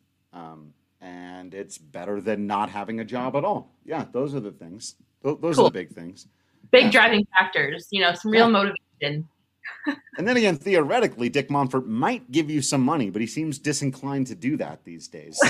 And it's better than not having a job at all. Yeah, those are the things. Those are the big things. Big driving factors, some real motivation. And then again, theoretically, Dick Monfort might give you some money, but he seems disinclined to do that these days.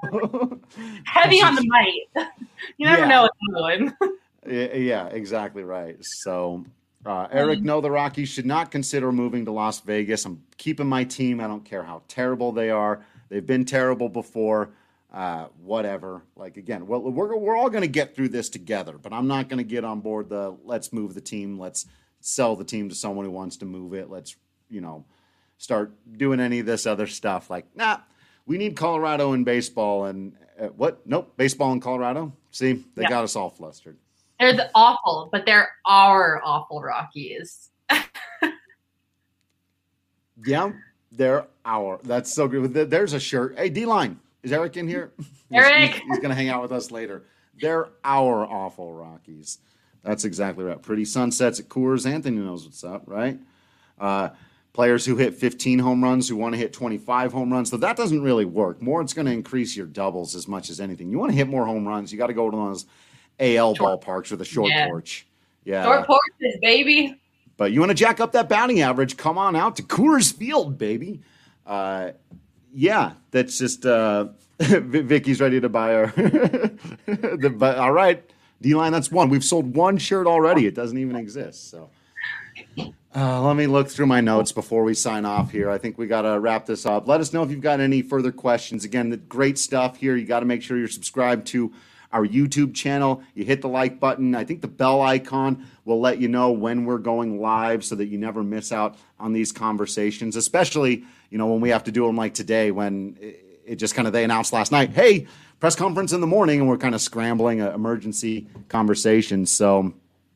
Heavy on the might. You never know what's going. Yeah, exactly right. So, Eric, no, the Rockies should not consider moving to Las Vegas. I'm keeping my team. I don't care how terrible they are. They've been terrible before. Whatever. Like, again, well, we're all going to get through this together, but I'm not going to get on board let's move the team. Let's sell the team to someone who wants to move it. Let's, start doing any of this other stuff. Like, we need Colorado in baseball. And what? Nope. Baseball in Colorado. See, they got us all flustered. They're awful, but there are awful Rockies. Yeah. That's so good. There's a shirt. Hey, D-Line, is Eric in here? Eric! He's going to hang out with us later. They're our awful Rockies. That's exactly right. Pretty sunsets at Coors. Anthony knows what's up, right? Players who hit 15 home runs, who want to hit 25 home runs. So that doesn't really work. More, it's going to increase your doubles as much as anything. You want to hit more home runs, you got to go to those AL ballparks with a short porch. Yeah. Short porches, baby. But you want to jack up that batting average, come on out to Coors Field, baby. Yeah, that's just Vicky's ready to buy our all right, D-Line, that's one. We've sold one shirt already. It doesn't even exist. So let me look through my notes before we sign off here. I think we got to wrap this up. Let us know if you've got any further questions. Again, the great stuff here. You got to make sure you're subscribed to our YouTube channel. You hit the like button. I think the bell icon will let you know when we're going live so that you never miss out on these conversations, especially, when we have to do them like today, when it just kind of, they announced last night, hey, press conference in the morning, and we're kind of scrambling an emergency conversation. So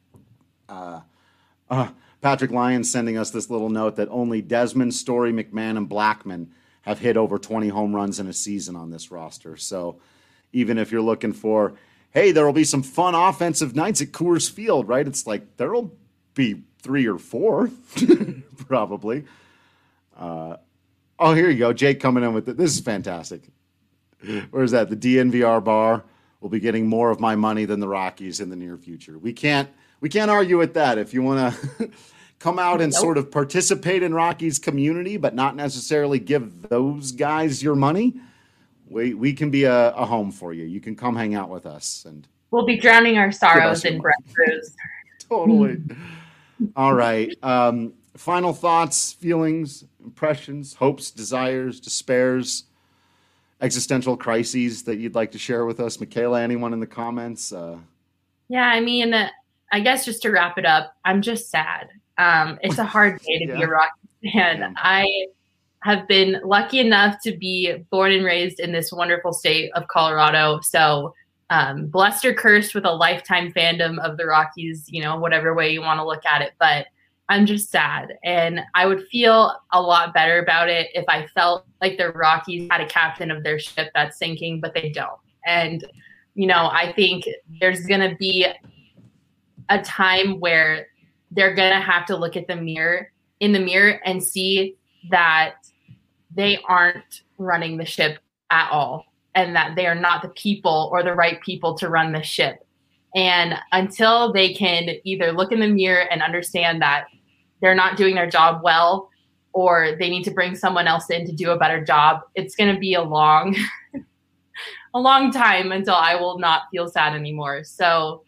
Patrick Lyons sending us this little note that only Desmond, Story, McMahon, and Blackman have hit over 20 home runs in a season on this roster. So even if you're looking for, hey, there will be some fun offensive nights at Coors Field, right? It's like there will be 3 or 4, probably. Here you go. Jake coming in with it. This is fantastic. Where's that? The DNVR bar will be getting more of my money than the Rockies in the near future. We can't argue with that. If you want to come out and sort of participate in Rockies community, but not necessarily give those guys your money, we can be a home for you. You can come hang out with us, and we'll be drowning our sorrows in breakfast. Totally. All right. Final thoughts, feelings, impressions, hopes, desires, despairs, existential crises that you'd like to share with us. Michaela, anyone in the comments? Yeah, I mean, I guess just to wrap it up, I'm just sad. It's a hard day to be a Rockies fan. Yeah. I have been lucky enough to be born and raised in this wonderful state of Colorado. So blessed or cursed with a lifetime fandom of the Rockies, whatever way you want to look at it. But I'm just sad. And I would feel a lot better about it if I felt like the Rockies had a captain of their ship that's sinking, but they don't. And, I think there's going to be a time where they're going to have to look at in the mirror and see that they aren't running the ship at all, and that they are not the people or the right people to run the ship. And until they can either look in the mirror and understand that they're not doing their job well, or they need to bring someone else in to do a better job, it's going to be a long time until I will not feel sad anymore. So,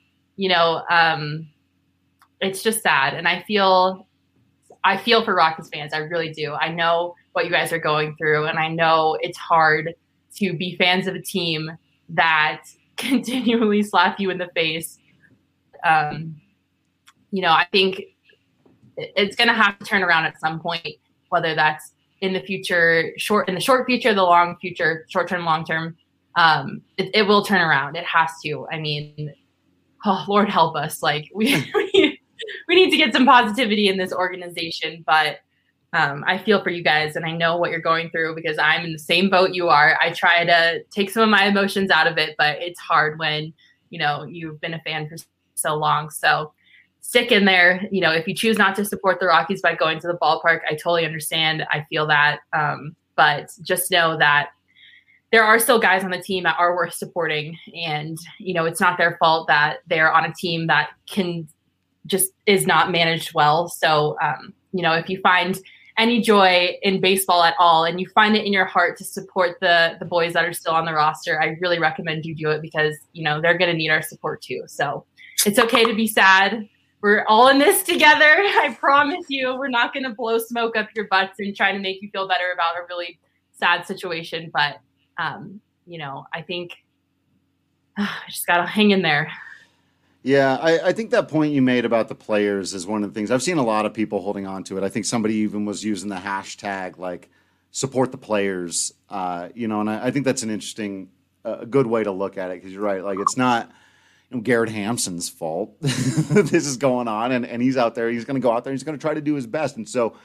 it's just sad. And I feel for Rockies fans. I really do. I know what you guys are going through, and I know it's hard to be fans of a team that continually slap you in the face. I think it's going to have to turn around at some point, whether that's in the future, in the short future, the long future, short term, long term. It will turn around. It has to. I mean, Lord help us. Like we need to get some positivity in this organization, but I feel for you guys, and I know what you're going through because I'm in the same boat you are. I try to take some of my emotions out of it, but it's hard when, you've been a fan for so long. So stick in there. If you choose not to support the Rockies by going to the ballpark, I totally understand. I feel that. But just know that there are still guys on the team that are worth supporting. And, it's not their fault that they're on a team that is not managed well. So, if you find any joy in baseball at all, and you find it in your heart to support the boys that are still on the roster, I really recommend you do it because, they're going to need our support too. So it's okay to be sad. We're all in this together. I promise you, we're not going to blow smoke up your butts and try to make you feel better about a really sad situation. But, I think I just got to hang in there. Yeah, I think that point you made about the players is one of the things. I've seen a lot of people holding on to it. I think somebody even was using the hashtag, like, support the players, and I think that's an interesting, good way to look at it because you're right. Like, it's not Garrett Hampson's fault this is going on, and he's out there. He's going to go out there. He's going to try to do his best. And so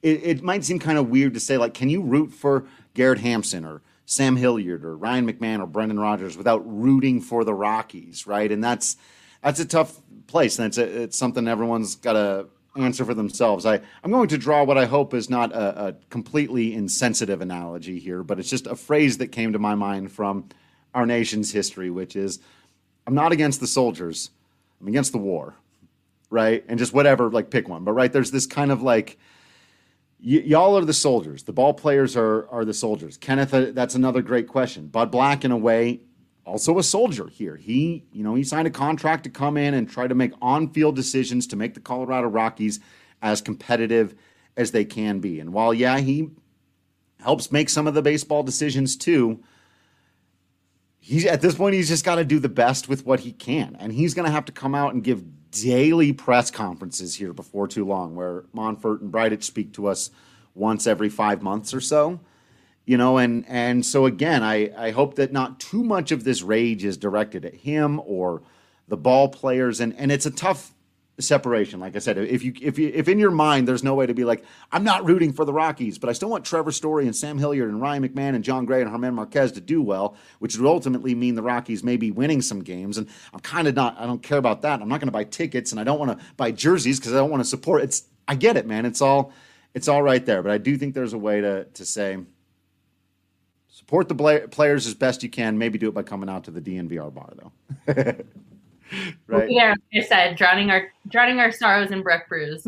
it might seem kind of weird to say, like, can you root for Garrett Hampson or Sam Hilliard or Ryan McMahon or Brendan Rodgers without rooting for the Rockies, right? And that's a tough place, and it's something everyone's got to answer for themselves. I'm going to draw what I hope is not a completely insensitive analogy here, but it's just a phrase that came to my mind from our nation's history, which is, I'm not against the soldiers, I'm against the war, right? And just whatever, like, pick one. But, right, there's this kind of like, y'all are the soldiers. The ball players are the soldiers. Kenneth, that's another great question. Bud Black, in a way, also a soldier here. He signed a contract to come in and try to make on-field decisions to make the Colorado Rockies as competitive as they can be. And while, yeah, he helps make some of the baseball decisions too, at this point, he's just got to do the best with what he can. And he's going to have to come out and give daily press conferences here before too long, where Monfort and Bridich speak to us once every 5 months or so. And so again, I hope that not too much of this rage is directed at him or the ball players. And it's a tough separation. Like I said, if in your mind there's no way to be like, I'm not rooting for the Rockies, but I still want Trevor Story and Sam Hilliard and Ryan McMahon and John Gray and Germán Marquez to do well, which would ultimately mean the Rockies may be winning some games. And I don't care about that. I'm not going to buy tickets, and I don't want to buy jerseys because I don't want to support. I get it, man. It's all right there. But I do think there's a way to say, support the players as best you can. Maybe do it by coming out to the DNVR bar, though. Right. Yeah, like I said, drowning our sorrows in Breck brews.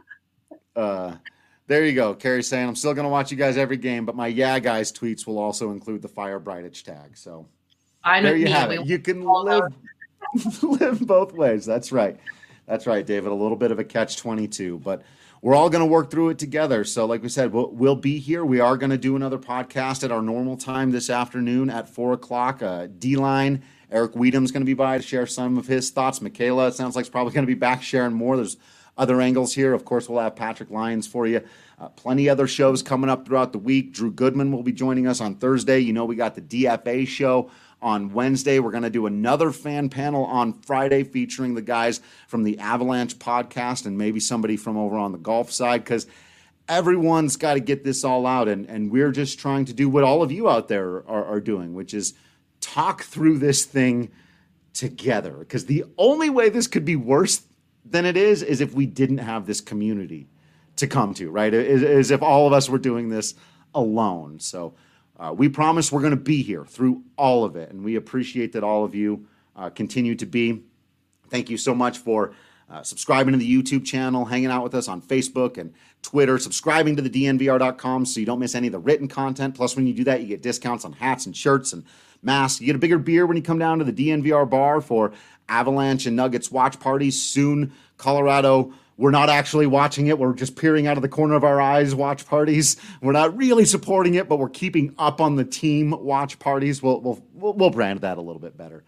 There you go. Carrie's saying, I'm still going to watch you guys every game, but my Yeah Guys tweets will also include the Fire Bridich tag. So there you have it. You can live both ways. That's right. That's right, David. A little bit of a catch-22, but we're all going to work through it together. So like we said, we'll be here. We are going to do another podcast at our normal time this afternoon at 4 o'clock. D-Line, Eric Weedham's going to be by to share some of his thoughts. Michaela, it sounds like, is probably going to be back sharing more. There's other angles here. Of course, we'll have Patrick Lyons for you. Plenty other shows coming up throughout the week. Drew Goodman will be joining us on Thursday. We got the DFA show on Wednesday. We're going to do another fan panel on Friday featuring the guys from the Avalanche podcast and maybe somebody from over on the golf side, because everyone's got to get this all out. And we're just trying to do what all of you out there are doing, which is talk through this thing together. Because the only way this could be worse than it is if we didn't have this community to come to, right? Is if all of us were doing this alone. So we promise we're going to be here through all of it, and we appreciate that all of you continue to be. Thank you so much for subscribing to the YouTube channel, hanging out with us on Facebook and Twitter, subscribing to the DNVR.com so you don't miss any of the written content. Plus, when you do that, you get discounts on hats and shirts and masks. You get a bigger beer when you come down to the DNVR bar for Avalanche and Nuggets watch parties. Soon, Colorado, we're not actually watching it. We're just peering out of the corner of our eyes watch parties. We're not really supporting it, but we're keeping up on the team watch parties. We'll brand that a little bit better.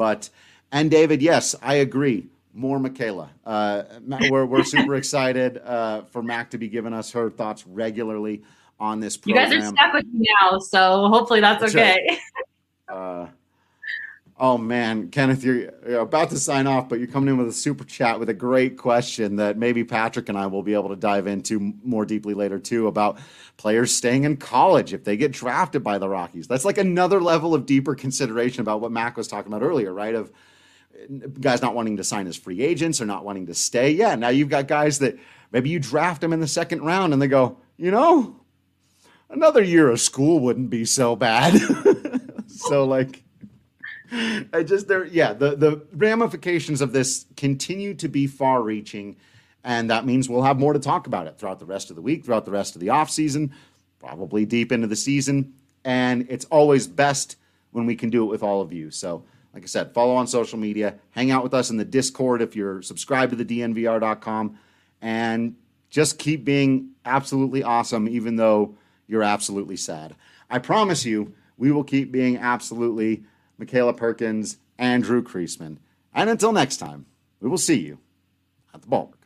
And David, yes, I agree. More Michaela. We're super excited for Mac to be giving us her thoughts regularly on this program. You guys are stuck with me now, so hopefully that's okay. Right. Oh, man, Kenneth, you're about to sign off, but you're coming in with a super chat with a great question that maybe Patrick and I will be able to dive into more deeply later, too, about players staying in college if they get drafted by the Rockies. That's like another level of deeper consideration about what Mac was talking about earlier, right, of guys not wanting to sign as free agents or not wanting to stay. Yeah, now you've got guys that maybe you draft them in the second round and they go, another year of school wouldn't be so bad. So, like, the ramifications of this continue to be far-reaching, and that means we'll have more to talk about it throughout the rest of the week, throughout the rest of the offseason, probably deep into the season, and it's always best when we can do it with all of you. So, like I said, follow on social media, hang out with us in the Discord if you're subscribed to the DNVR.com, and just keep being absolutely awesome, even though you're absolutely sad. I promise you, we will keep being absolutely Michaela Perkins, Andrew Kreisman. And until next time, we will see you at the ballpark.